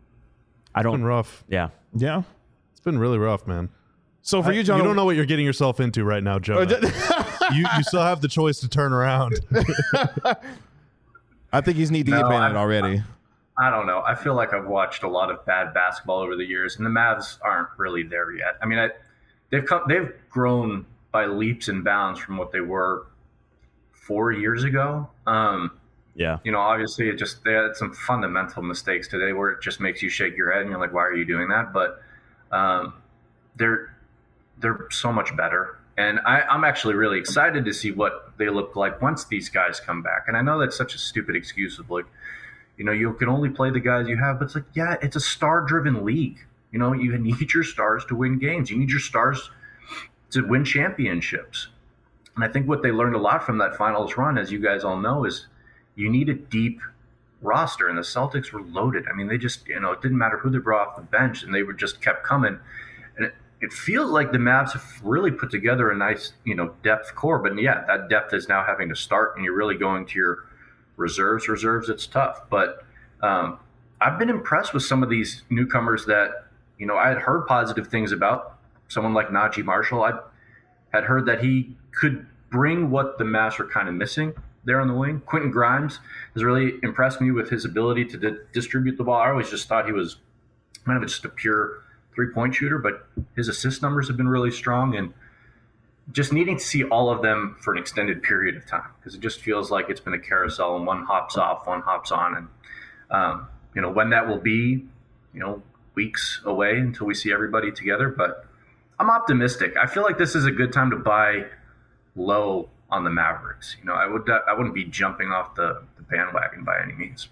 I don't. It's been rough. Yeah. Yeah. It's been really rough, man. So for I, you, John, you don't know what you're getting yourself into right now, Joe. you you still have the choice to turn around. I think he's knee deep No, in I- it already. I don't know. I feel like I've watched a lot of bad basketball over the years, and the Mavs aren't really there yet. I mean, I, they've come, they've grown by leaps and bounds from what they were four years ago. Um, Yeah. you know, obviously, it just they had some fundamental mistakes today where it just makes you shake your head and you're like, "Why are you doing that?" But um, they're they're so much better, and I, I'm actually really excited to see what they look like once these guys come back. And I know that's such a stupid excuse of like. You know, you can only play the guys you have, but it's like, yeah, it's a star-driven league. You know, you need your stars to win games. You need your stars to win championships. And I think what they learned a lot from that finals run, as you guys all know, is you need a deep roster, and the Celtics were loaded. I mean, they just, you know, it didn't matter who they brought off the bench, and they were just kept coming. And it, it feels like the Mavs have really put together a nice, you know, depth core. But yeah, that depth is now having to start, and you're really going to your reserves. Reserves, it's tough. But um, I've been impressed with some of these newcomers that, you know, I had heard positive things about. Someone like Najee Marshall, I had heard that he could bring what the Mavs were kind of missing there on the wing. Quentin Grimes has really impressed me with his ability to di- distribute the ball. I always just thought he was kind of just a pure three-point shooter, but his assist numbers have been really strong, and just needing to see all of them for an extended period of time, because it just feels like it's been a carousel and one hops off, one hops on. And, um, you know, when that will be, you know, weeks away until we see everybody together. But I'm optimistic. I feel like this is a good time to buy low on the Mavericks. You know, I would I wouldn't be jumping off the, the bandwagon by any means.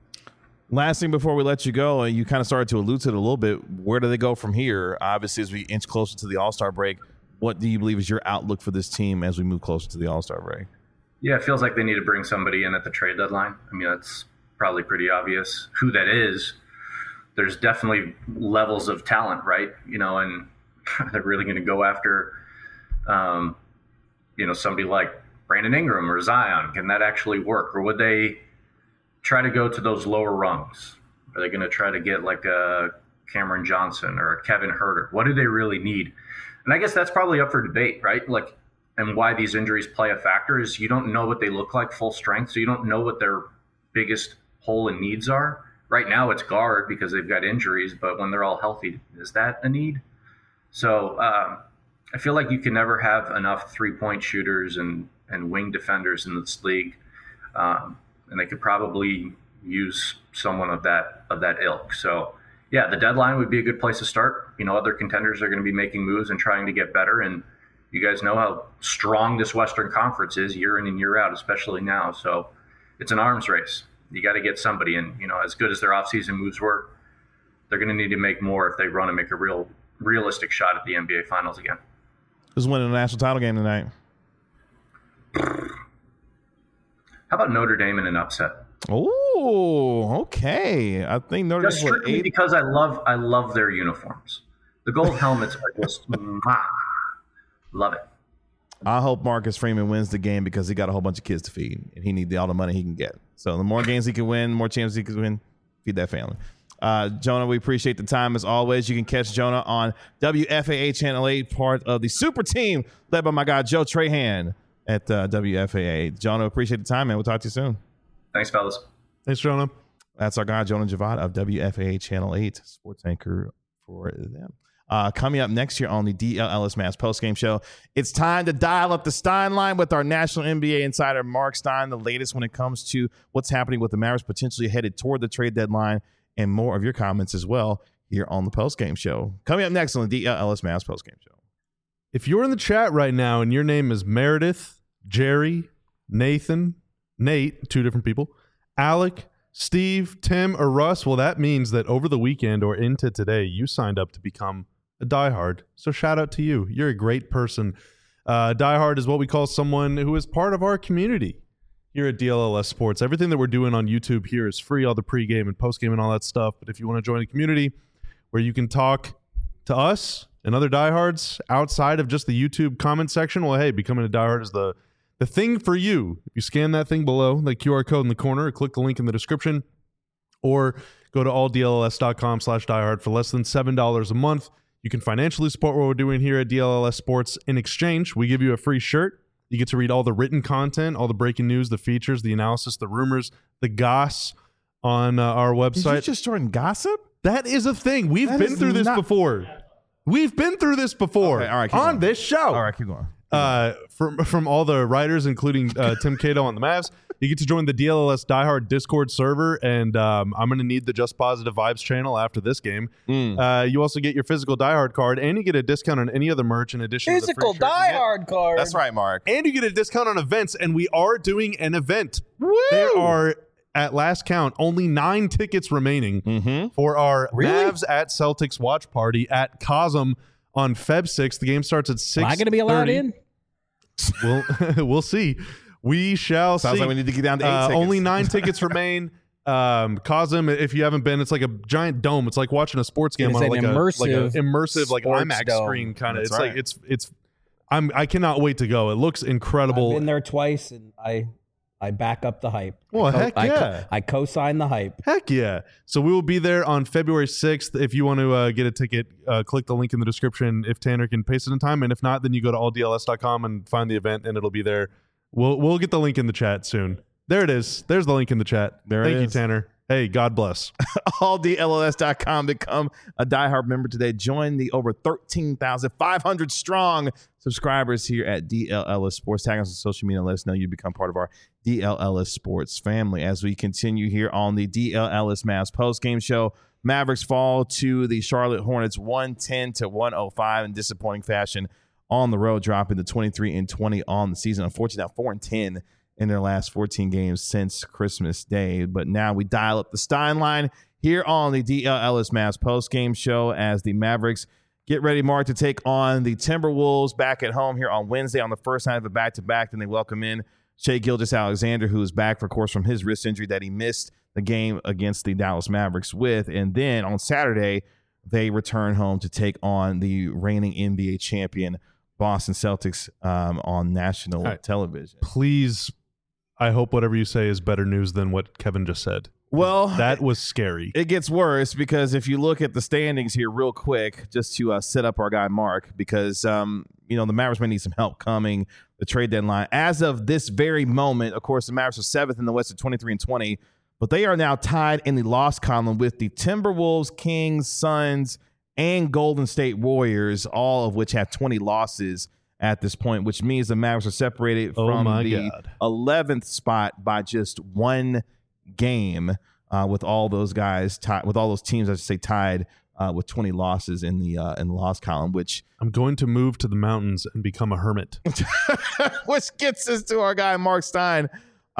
Last thing before we let you go, you kind of started to allude to it a little bit. Where do they go from here? Obviously, as we inch closer to the All-Star break, what do you believe is your outlook for this team as we move closer to the All-Star break? Yeah, it feels like they need to bring somebody in at the trade deadline. I mean, that's probably pretty obvious who that is. There's definitely levels of talent, right? You know, and they're really going to go after, um, you know, somebody like Brandon Ingram or Zion. Can that actually work? Or would they try to go to those lower rungs? Are they going to try to get like a Cameron Johnson or a Kevin Huerter? What do they really need? And I guess that's probably up for debate, right? Like, and why these injuries play a factor is you don't know what they look like full strength, so you don't know what their biggest hole and needs are. Right now it's guard because they've got injuries, but when they're all healthy, is that a need? So um, I feel like you can never have enough three-point shooters and, and wing defenders in this league, um, and they could probably use someone of that of that ilk. So yeah, the deadline would be a good place to start. You know, other contenders are going to be making moves and trying to get better, and you guys know how strong this Western Conference is year in and year out, especially now. So it's an arms race. You got to get somebody, and you know, as good as their offseason moves were, they're going to need to make more if they want to make a real realistic shot at the N B A Finals again. Who's winning the national title game tonight? How about Notre Dame in an upset? Oh, okay. I think Notre Just Dame strictly eight. because I love I love their uniforms. The gold helmets are just mwah. Love it. I hope Marcus Freeman wins the game because he got a whole bunch of kids to feed, and he needs all the money he can get. So the more games he can win, more chances he can win, feed that family. Uh, Jonah, we appreciate the time as always. You can catch Jonah on W F A A Channel eight, part of the super team led by my guy Joe Trahan at uh, W F A A. Jonah, appreciate the time, man. We'll talk to you soon. Thanks, fellas. Thanks, Jonah. That's our guy, Jonah Javad of W F A A Channel eight, sports anchor for them. Uh, coming up next year on the D L Ellis Mavs postgame show, it's time to dial up the Stein line with our national N B A insider, Mark Stein, the latest when it comes to what's happening with the Mavericks potentially headed toward the trade deadline, and more of your comments as well here on the postgame show. Coming up next on the D L Ellis Mavs postgame show. If you're in the chat right now and your name is Meredith, Jerry, Nathan, Nate, two different people, Alec, Steve, Tim, or Russ, well, that means that over the weekend or into today, you signed up to become a diehard. So shout out to you. You're a great person. Uh, diehard is what we call someone who is part of our community here at D L L S Sports. Everything that we're doing on YouTube here is free, all the pregame and postgame and all that stuff. But if you want to join a community where you can talk to us and other diehards outside of just the YouTube comment section, well, hey, becoming a diehard is the, the thing for you. If you scan that thing below, the Q R code in the corner, or click the link in the description, or go to all D L L S dot com slash diehard for less than seven dollars a month. You can financially support what we're doing here at D L L S Sports. In exchange, we give you a free shirt. You get to read all the written content, all the breaking news, the features, the analysis, the rumors, the goss on uh, our website. Did you just join gossip? That is a thing. We've That been is through this not- before. We've been through this before Okay, all right, keep on going. this show. All right, keep going. Uh, from from all the writers, including uh, Tim Cato on the Mavs, you get to join the D L L S Diehard Discord server, and um, I'm going to need the Just Positive Vibes channel after this game. Mm. Uh, you also get your physical Diehard card, and you get a discount on any other merch in addition Physical to the free shirt you get. diehard card. That's right, Mark. And you get a discount on events, and we are doing an event. Woo! There are, at last count, only nine tickets remaining Mm-hmm. for our Really? Mavs at Celtics watch party at Cosm on February sixth. The game starts at six. Am I going to be allowed in? We'll we'll see. We shall Sounds see. like we need to get down to eight Uh, tickets. only nine tickets remain. Um, Cosm, if you haven't been, it's like a giant dome. It's like watching a sports game It is on an like, immersive a, like a immersive like sports IMAX dome. screen kind of. That's It's right. like it's it's. I'm I cannot wait to go. It looks incredible. I've been there twice, and I I back up the hype. Well, I co- heck I co- yeah. I co-sign the hype. Heck yeah. So we will be there on February sixth. If you want to uh, get a ticket, uh, click the link in the description if Tanner can paste it in time. And if not, then you go to all D L S dot com and find the event, and it'll be there. We'll we'll get the link in the chat soon. There it is. There's the link in the chat. There it Thank you, is. Tanner. Hey, God bless. all D L L S dot com. Become a diehard member today. Join the over thirteen thousand five hundred strong subscribers here at D L L S Sports. Tag us on social media and let us know you become part of our D L L S Sports family. As we continue here on the D L L S Mavs post-game show, Mavericks fall to the Charlotte Hornets one ten to one oh five in disappointing fashion on the road, dropping to twenty-three and twenty on the season. Unfortunately, now four and ten in their last fourteen games since Christmas Day. But now we dial up the Stein line here on the D L L S Mavs post-game show as the Mavericks get ready, Mark, to take on the Timberwolves back at home here on Wednesday on the first night of a back-to-back. Then they welcome in Shai Gilgeous-Alexander, who is back, of course, from his wrist injury that he missed the game against the Dallas Mavericks with. And then on Saturday, they return home to take on the reigning N B A champion Boston Celtics um, on national right. television. Please, I hope whatever you say is better news than what Kevin just said. Well, That was scary. it gets worse because if you look at the standings here real quick, just to uh, set up our guy Mark, because um, you know the Mavericks may need some help coming the trade deadline. As of this very moment, of course, the Mavericks are seventh in the West at twenty-three and twenty, but they are now tied in the loss column with the Timberwolves, Kings, Suns, and Golden State Warriors, all of which have twenty losses at this point, which means the Mavericks are separated Oh from my the God. eleventh spot by just one game, uh, with all those guys tied, with all those teams, I should say, tied uh, with twenty losses in the uh, in the loss column, which I'm going to move to the mountains and become a hermit. which gets us to our guy Mark Stein.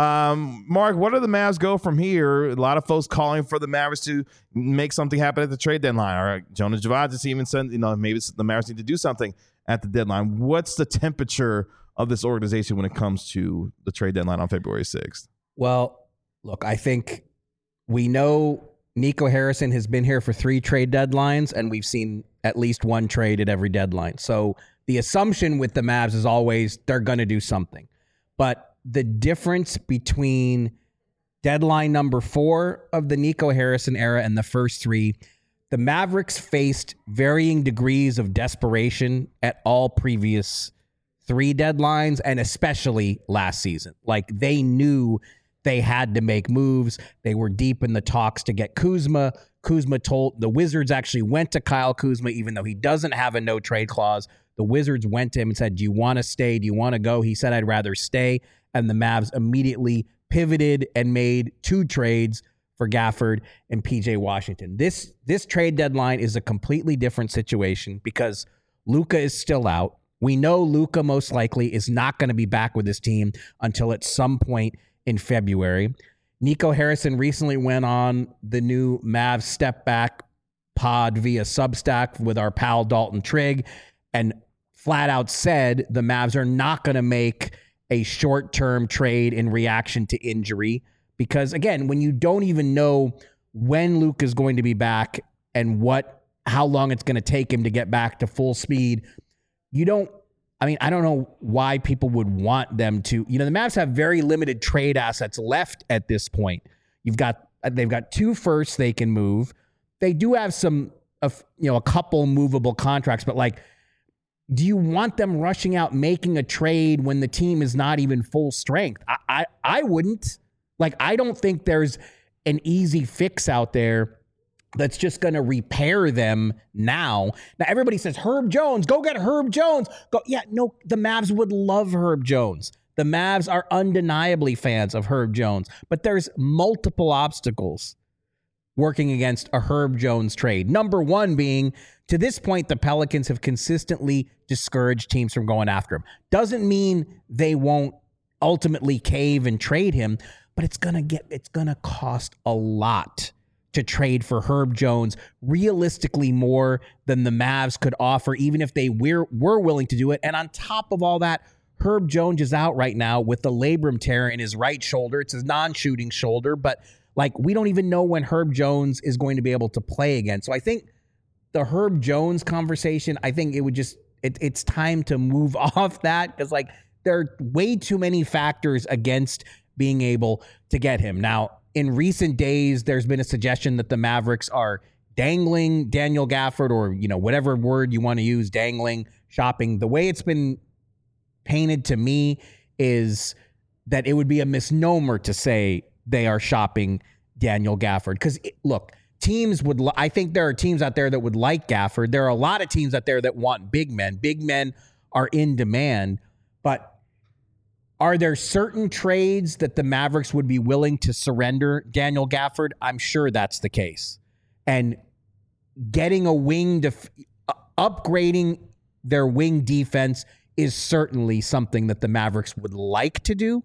Um, Mark, what do the Mavs go from here? A lot of folks calling for the Mavericks to make something happen at the trade deadline. All right, Jonas Javadis even said, you know, maybe the Mavericks need to do something at the deadline. What's the temperature of this organization when it comes to the trade deadline on February sixth? Well, look, I think we know Nico Harrison has been here for three trade deadlines, and we've seen at least one trade at every deadline. So the assumption with the Mavs is always they're going to do something. But the difference between deadline number four of the Nico Harrison era and the first three, the Mavericks faced varying degrees of desperation at all previous three deadlines, and especially last season. Like, they knew they had to make moves. They were deep in the talks to get Kuzma. Kuzma told the Wizards actually went to Kyle Kuzma, even though he doesn't have a no trade clause. The Wizards went to him and said, do you want to stay? Do you want to go? He said, I'd rather stay. And the Mavs immediately pivoted and made two trades for Gafford and P J Washington. This this trade deadline is a completely different situation because Luka is still out. We know Luka most likely is not going to be back with his team until at some point in February. Nico Harrison recently went on the new Mavs Step Back pod via Substack with our pal Dalton Trigg and flat out said the Mavs are not going to make a short-term trade in reaction to injury because, again, when you don't even know when Luka is going to be back and what how long it's going to take him to get back to full speed, you don't I mean, I don't know why people would want them to. You know, the Mavs have very limited trade assets left at this point. You've got they've got two firsts they can move. They do have some, uh, you know, a couple movable contracts, but like, do you want them rushing out making a trade when the team is not even full strength? I I, I wouldn't. Like, I don't think there's an easy fix out there that's just going to repair them now. Now, everybody says, Herb Jones, go get Herb Jones. Go, yeah, no, the Mavs would love Herb Jones. The Mavs are undeniably fans of Herb Jones, but there's multiple obstacles working against a Herb Jones trade. Number one being, to this point, the Pelicans have consistently discouraged teams from going after him. Doesn't mean they won't ultimately cave and trade him, but it's gonna get it's gonna cost a lot to trade for Herb Jones, realistically more than the Mavs could offer, even if they were, were willing to do it. And on top of all that, Herb Jones is out right now with the labrum tear in his right shoulder. It's his non-shooting shoulder, but Like, we don't even know when Herb Jones is going to be able to play again. So I think the Herb Jones conversation, I think it would just, it, it's time to move off that, because like there are way too many factors against being able to get him. Now, in recent days, there's been a suggestion that the Mavericks are dangling Daniel Gafford, or, you know, whatever word you want to use, dangling, shopping. The way it's been painted to me is that it would be a misnomer to say they are shopping Daniel Gafford. Because, look, teams would, I think there are teams out there that would like Gafford. There are a lot of teams out there that want big men. Big men are in demand. But are there certain trades that the Mavericks would be willing to surrender Daniel Gafford? I'm sure that's the case. And getting a wing, def- upgrading their wing defense is certainly something that the Mavericks would like to do.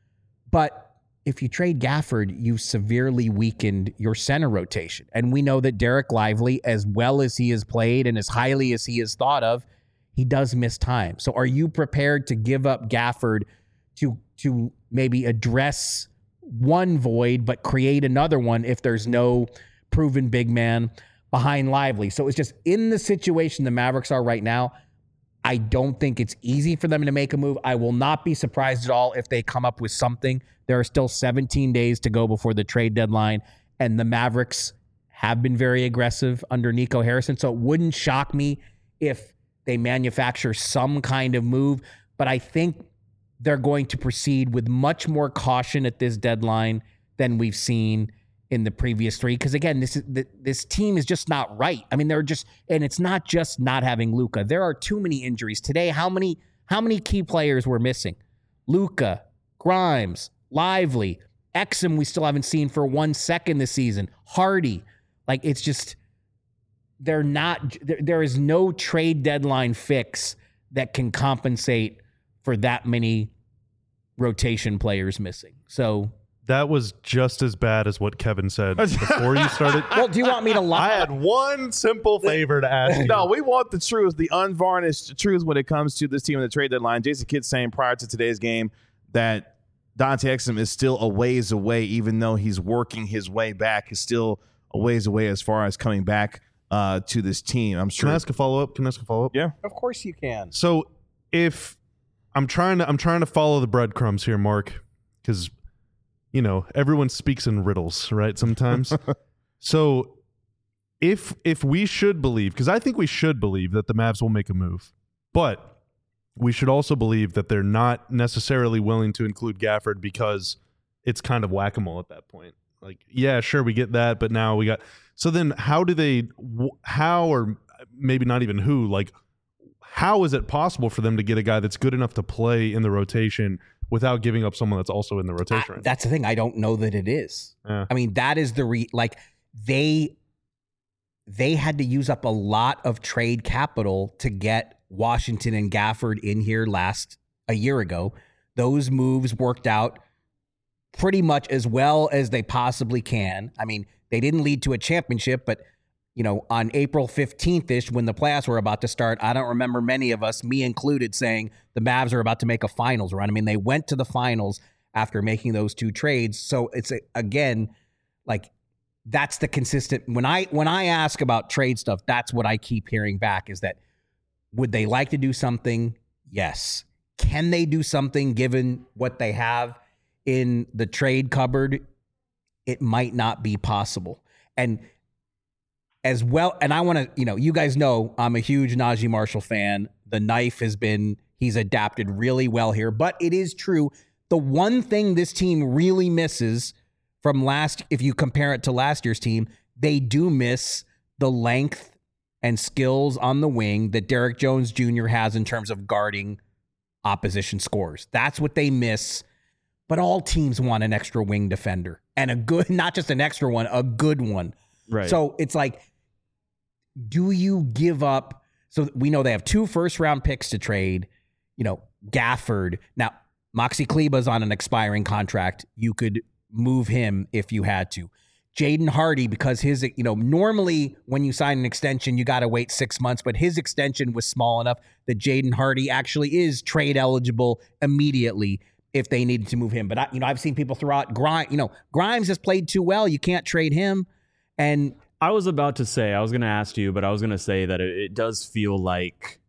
But if you trade Gafford, you severely weakened your center rotation. And we know that Derek Lively, as well as he has played and as highly as he is thought of, he does miss time. So are you prepared to give up Gafford to to maybe address one void, but create another one if there's no proven big man behind Lively? So it's just, in the situation the Mavericks are right now, I don't think it's easy for them to make a move. I will not be surprised at all if they come up with something. There are still seventeen days to go before the trade deadline, and the Mavericks have been very aggressive under Nico Harrison. So it wouldn't shock me if they manufacture some kind of move, but I think they're going to proceed with much more caution at this deadline than we've seen in the previous three. Because again, this is this team is just not right. I mean, they're just, and it's not just not having Luka. There are too many injuries today. How many how many key players were missing? Luka, Grimes, Lively, Exum. We still haven't seen for one second this season. Hardy, like it's just they're not. There, there is no trade deadline fix that can compensate for that many rotation players missing. So that was just as bad as what Kevin said before you started. Well, do you want me to lie? I had one simple favor to ask you. No, we want the truth, the unvarnished truth when it comes to this team in the trade deadline. Jason Kidd saying prior to today's game that Dante Exum is still a ways away, even though he's working his way back. He's still a ways away as far as coming back uh, to this team. I'm sure. Can I ask a follow-up? Can I ask a follow-up? Yeah. Of course you can. So if I'm trying to I'm trying to follow the breadcrumbs here, Mark, because you know everyone speaks in riddles, right? Sometimes. So if if we should believe, because I think we should believe that the Mavs will make a move, but we should also believe that they're not necessarily willing to include Gafford because it's kind of whack-a-mole at that point. Like, yeah, sure, we get that, but now we got. So then, how do they? How or maybe not even who like. How is it possible for them to get a guy that's good enough to play in the rotation without giving up someone that's also in the rotation? I, right that's the thing. I don't know that it is. Yeah. I mean, that is the re like they they had to use up a lot of trade capital to get Washington and Gafford in here last a year ago. Those moves worked out pretty much as well as they possibly can. I mean, they didn't lead to a championship, but you know, on April fifteenth-ish, when the playoffs were about to start, I don't remember many of us, me included, saying the Mavs are about to make a finals run. I mean, they went to the finals after making those two trades. So it's, a, again, like, that's the consistent. When I when I ask about trade stuff, that's what I keep hearing back is that, would they like to do something? Yes. Can they do something given what they have in the trade cupboard? It might not be possible. And as well, and I want to, you know, you guys know I'm a huge Najee Marshall fan. The knife has been, he's adapted really well here. But it is true, the one thing this team really misses from last, if you compare it to last year's team, they do miss the length and skills on the wing that Derek Jones Junior has in terms of guarding opposition scores. That's what they miss. But all teams want an extra wing defender, and a good, not just an extra one, a good one. Right. So it's like, do you give up? So we know they have two first round picks to trade, you know, Gafford. Now, Moxie Kleba's on an expiring contract. You could move him if you had to. Jaden Hardy, because his, you know, normally when you sign an extension, you got to wait six months, but his extension was small enough that Jaden Hardy actually is trade eligible immediately if they needed to move him. But I, you know, I've seen people throw out Grimes. You know, Grimes has played too well. You can't trade him. And I was about to say, I was going to ask you, but I was going to say that it, it does feel like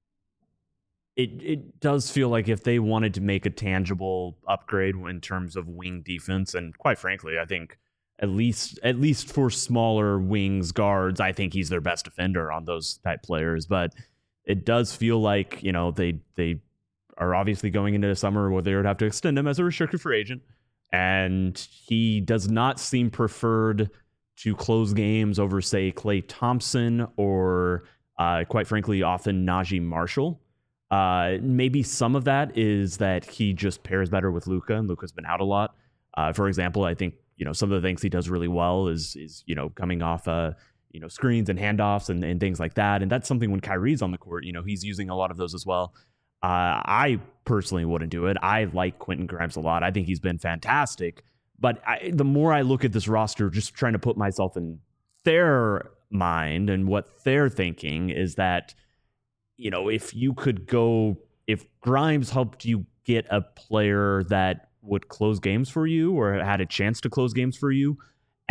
it it does feel like if they wanted to make a tangible upgrade in terms of wing defense, and quite frankly, I think at least at least for smaller wings guards, I think he's their best defender on those type players. But it does feel like, you know, they they are obviously going into the summer where they would have to extend him as a restricted free agent, and he does not seem preferred to close games over, say, Klay Thompson or, uh, quite frankly, often Najee Marshall. Uh, maybe some of that is that he just pairs better with Luka, and Luka's been out a lot. Uh, for example, I think, you know, some of the things he does really well is, is you know, coming off, uh, you know, screens and handoffs and, and things like that. And that's something when Kyrie's on the court, you know, he's using a lot of those as well. Uh, I personally wouldn't do it. I like Quentin Grimes a lot. I think he's been fantastic. But I, the more I look at this roster, just trying to put myself in their mind and what they're thinking is that, you know, if you could go, if Grimes helped you get a player that would close games for you or had a chance to close games for you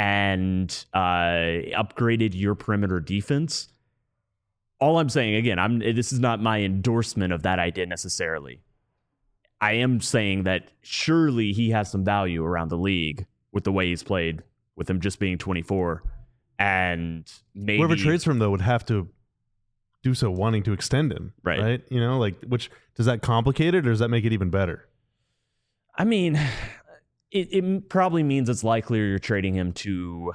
and uh, upgraded your perimeter defense, all I'm saying, again, I'm this is not my endorsement of that idea necessarily. I am saying that surely he has some value around the league with the way he's played, with him just being twenty-four. And maybe whoever trades for him, though, would have to do so wanting to extend him. Right. Right. You know, like, which does that complicate it or does that make it even better? I mean, it, it probably means it's likelier you're trading him to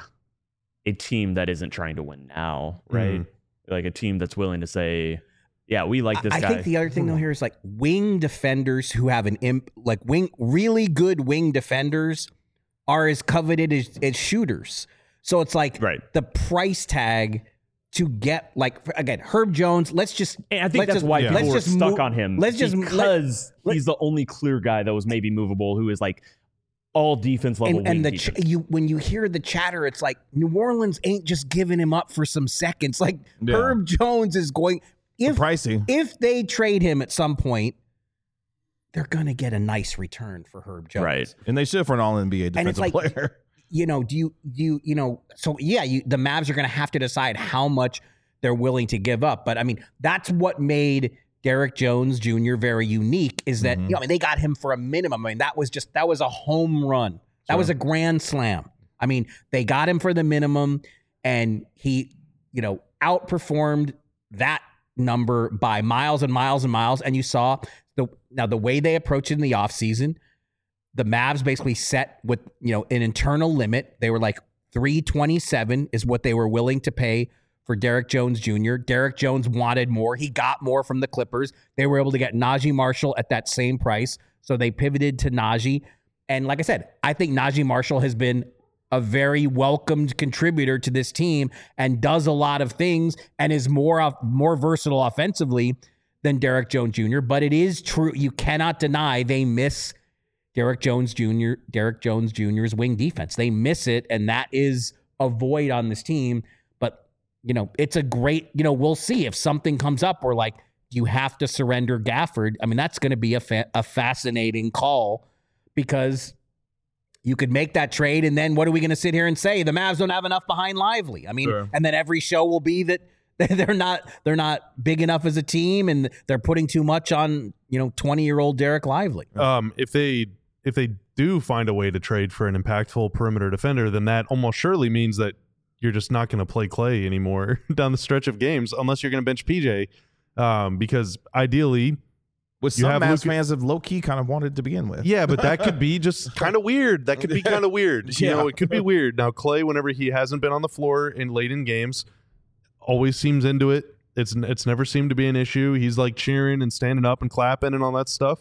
a team that isn't trying to win now, right? Mhm. Like a team that's willing to say, yeah, we like this I guy. think the other thing though here is like wing defenders who have an imp, like wing, really good wing defenders are as coveted as, as shooters. So it's like Right. the price tag to get like again Herb Jones. Let's just. And I think let's that's just, why let's people were just stuck move- on him. Let's just because let- he's the only clear guy that was maybe movable, who is like all defense level. And, and wing the ch- defense. you when you hear the chatter, it's like New Orleans ain't just giving him up for some seconds. Like Yeah. Herb Jones is going. If Pricey. if they trade him at some point, they're gonna get a nice return for Herb Jones. Right. And they should for an all N B A And defensive it's like, player. you know, do you do you, you know, so yeah, you the Mavs are gonna have to decide how much they're willing to give up. But I mean, that's what made Derek Jones Junior very unique, is that Mhm. you know, I mean, they got him for a minimum. I mean, that was just that was a home run. That Sure. was a grand slam. I mean, they got him for the minimum, and he, you know, outperformed that number by miles and miles and miles. And you saw the now the way they approached it in the offseason, the Mavs basically set with, you know, an internal limit. They were like three twenty-seven is what they were willing to pay for Derek Jones Junior Derek Jones wanted more. He got more from the Clippers. They were able to get Najee Marshall at that same price. So they pivoted to Najee. And like I said, I think Najee Marshall has been a very welcomed contributor to this team and does a lot of things and is more more versatile offensively than Derek Jones Junior But it is true. You cannot deny they miss Derek Jones Junior Derek Jones Junior's wing defense. They miss it, and that is a void on this team. But, you know, it's a great, you know, we'll see if something comes up where, like, you have to surrender Gafford. I mean, that's going to be a, fa- a fascinating call, because you could make that trade, and then what are we going to sit here and say? The Mavs don't have enough behind Lively. I mean, Sure. and then every show will be that they're not they're not big enough as a team, and they're putting too much on, you know, twenty-year-old Derek Lively. Um, if they if they do find a way to trade for an impactful perimeter defender, then that almost surely means that you're just not going to play Klay anymore down the stretch of games, unless you're going to bench P J, um, because ideally, Which you some have Mavs Luka- fans have low-key kind of wanted to begin with. yeah, but that could be just kind of weird. That could be kind of weird. You Yeah. know, it could be weird. Now, Klay, whenever he hasn't been on the floor in late in games, always seems into it. It's it's never seemed to be an issue. He's like cheering and standing up and clapping and all that stuff.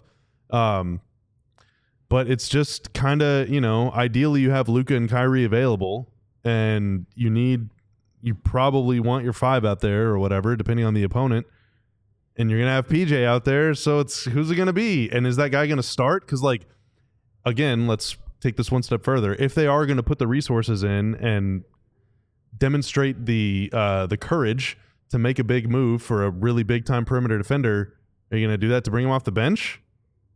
Um, but it's just kind of, you know, ideally you have Luka and Kyrie available, and you need, you probably want your five out there or whatever, depending on the opponent. And you're going to have P J out there, so it's who's it going to be? And is that guy going to start? Because, like, again, let's take this one step further. If they are going to put the resources in and demonstrate the uh, the courage to make a big move for a really big-time perimeter defender, are you going to do that to bring him off the bench?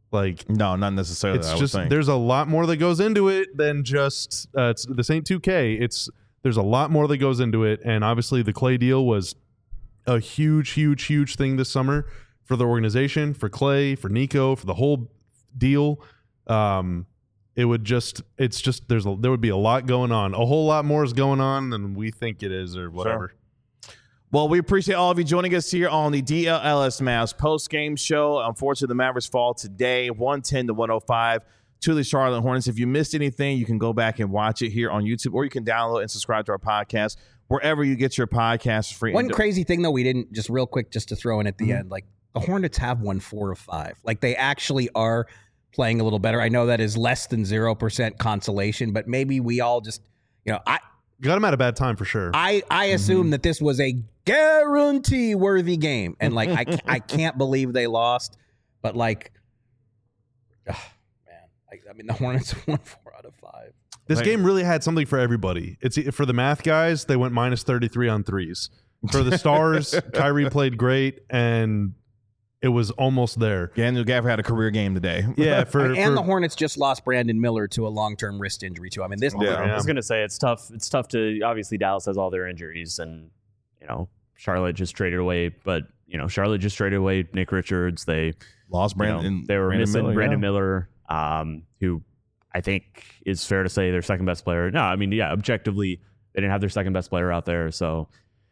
Like, No, not necessarily. it's I would just think. there's a lot more that goes into it than just uh, it's this ain't two K. It's there's a lot more that goes into it, and obviously the Clay deal was a huge, huge, huge thing this summer for the organization, for Clay, for Nico, for the whole deal. Um, it would just it's just there's a, there would be a lot going on. A whole lot more is going on than we think it is, or whatever. Sure. Well, we appreciate all of you joining us here on the D L L S Mavs post-game show. Unfortunately, the Mavericks fall today, one ten to one oh five to the Charlotte Hornets. If you missed anything, you can go back and watch it here on YouTube, or you can download and subscribe to our podcast wherever you get your podcasts free. One crazy thing, though, we didn't, just real quick, just to throw in at the mm-hmm. end, like the Hornets have won four of five. Like they actually are playing a little better. I know that is less than zero percent consolation, but maybe we all just, you know, I got them at a bad time for sure. I, I assume mm-hmm. that this was a guarantee worthy game. And like, I, I can't believe they lost, but like, oh, man, I, I mean, the Hornets won four out of five. This Wait. game really had something for everybody. It's for the math guys, they went minus thirty-three on threes. For the stars, Kyrie played great, and it was almost there. Daniel Gafford had a career game today. Yeah, for and for, the Hornets just lost Brandon Miller to a long-term wrist injury too. I mean, this. Yeah. I was gonna say it's tough. It's tough to obviously Dallas has all their injuries, and you know Charlotte just traded away. But you know Charlotte just traded away Nick Richards. They Lost Brandon. You know, they were Brandon missing Miller, Brandon yeah. Miller, um, who I think is fair to say their second best player. No, I mean yeah, objectively they didn't have their second best player out there. So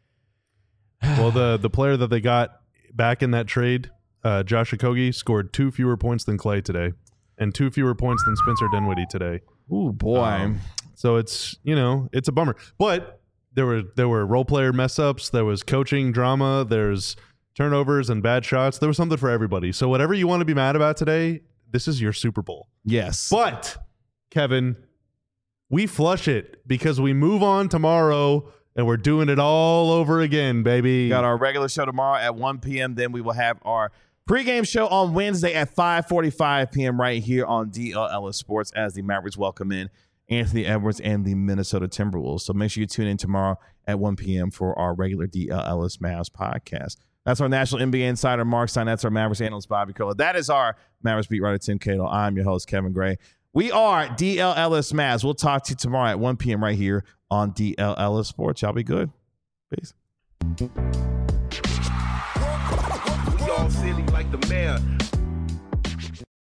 well, the the player that they got back in that trade, uh, Josh Okogie, scored two fewer points than Clay today, and two fewer points than Spencer Dinwiddie today. Ooh, boy. Um, so it's you know it's a bummer, but there were there were role player mess ups, there was coaching drama, there's turnovers and bad shots. There was something for everybody. So whatever you want to be mad about today, this is your Super Bowl. Yes. But Kevin, we flush it because we move on tomorrow. And we're doing it all over again, baby. We got our regular show tomorrow at one p.m. Then we will have our pregame show on Wednesday at five forty-five p.m. right here on D L L S Sports as the Mavericks welcome in Anthony Edwards and the Minnesota Timberwolves. So make sure you tune in tomorrow at one p.m. for our regular D L L S Mavs podcast. That's our national N B A insider, Mark Stein. That's our Mavericks analyst, Bobby Curler. That is our Mavericks beat writer, Tim Cato. I'm your host, Kevin Gray. We are D L L S Mavs. We'll talk to you tomorrow at one p.m. right here on D L L S Sports. Y'all be good. Peace. We all silly like the mayor.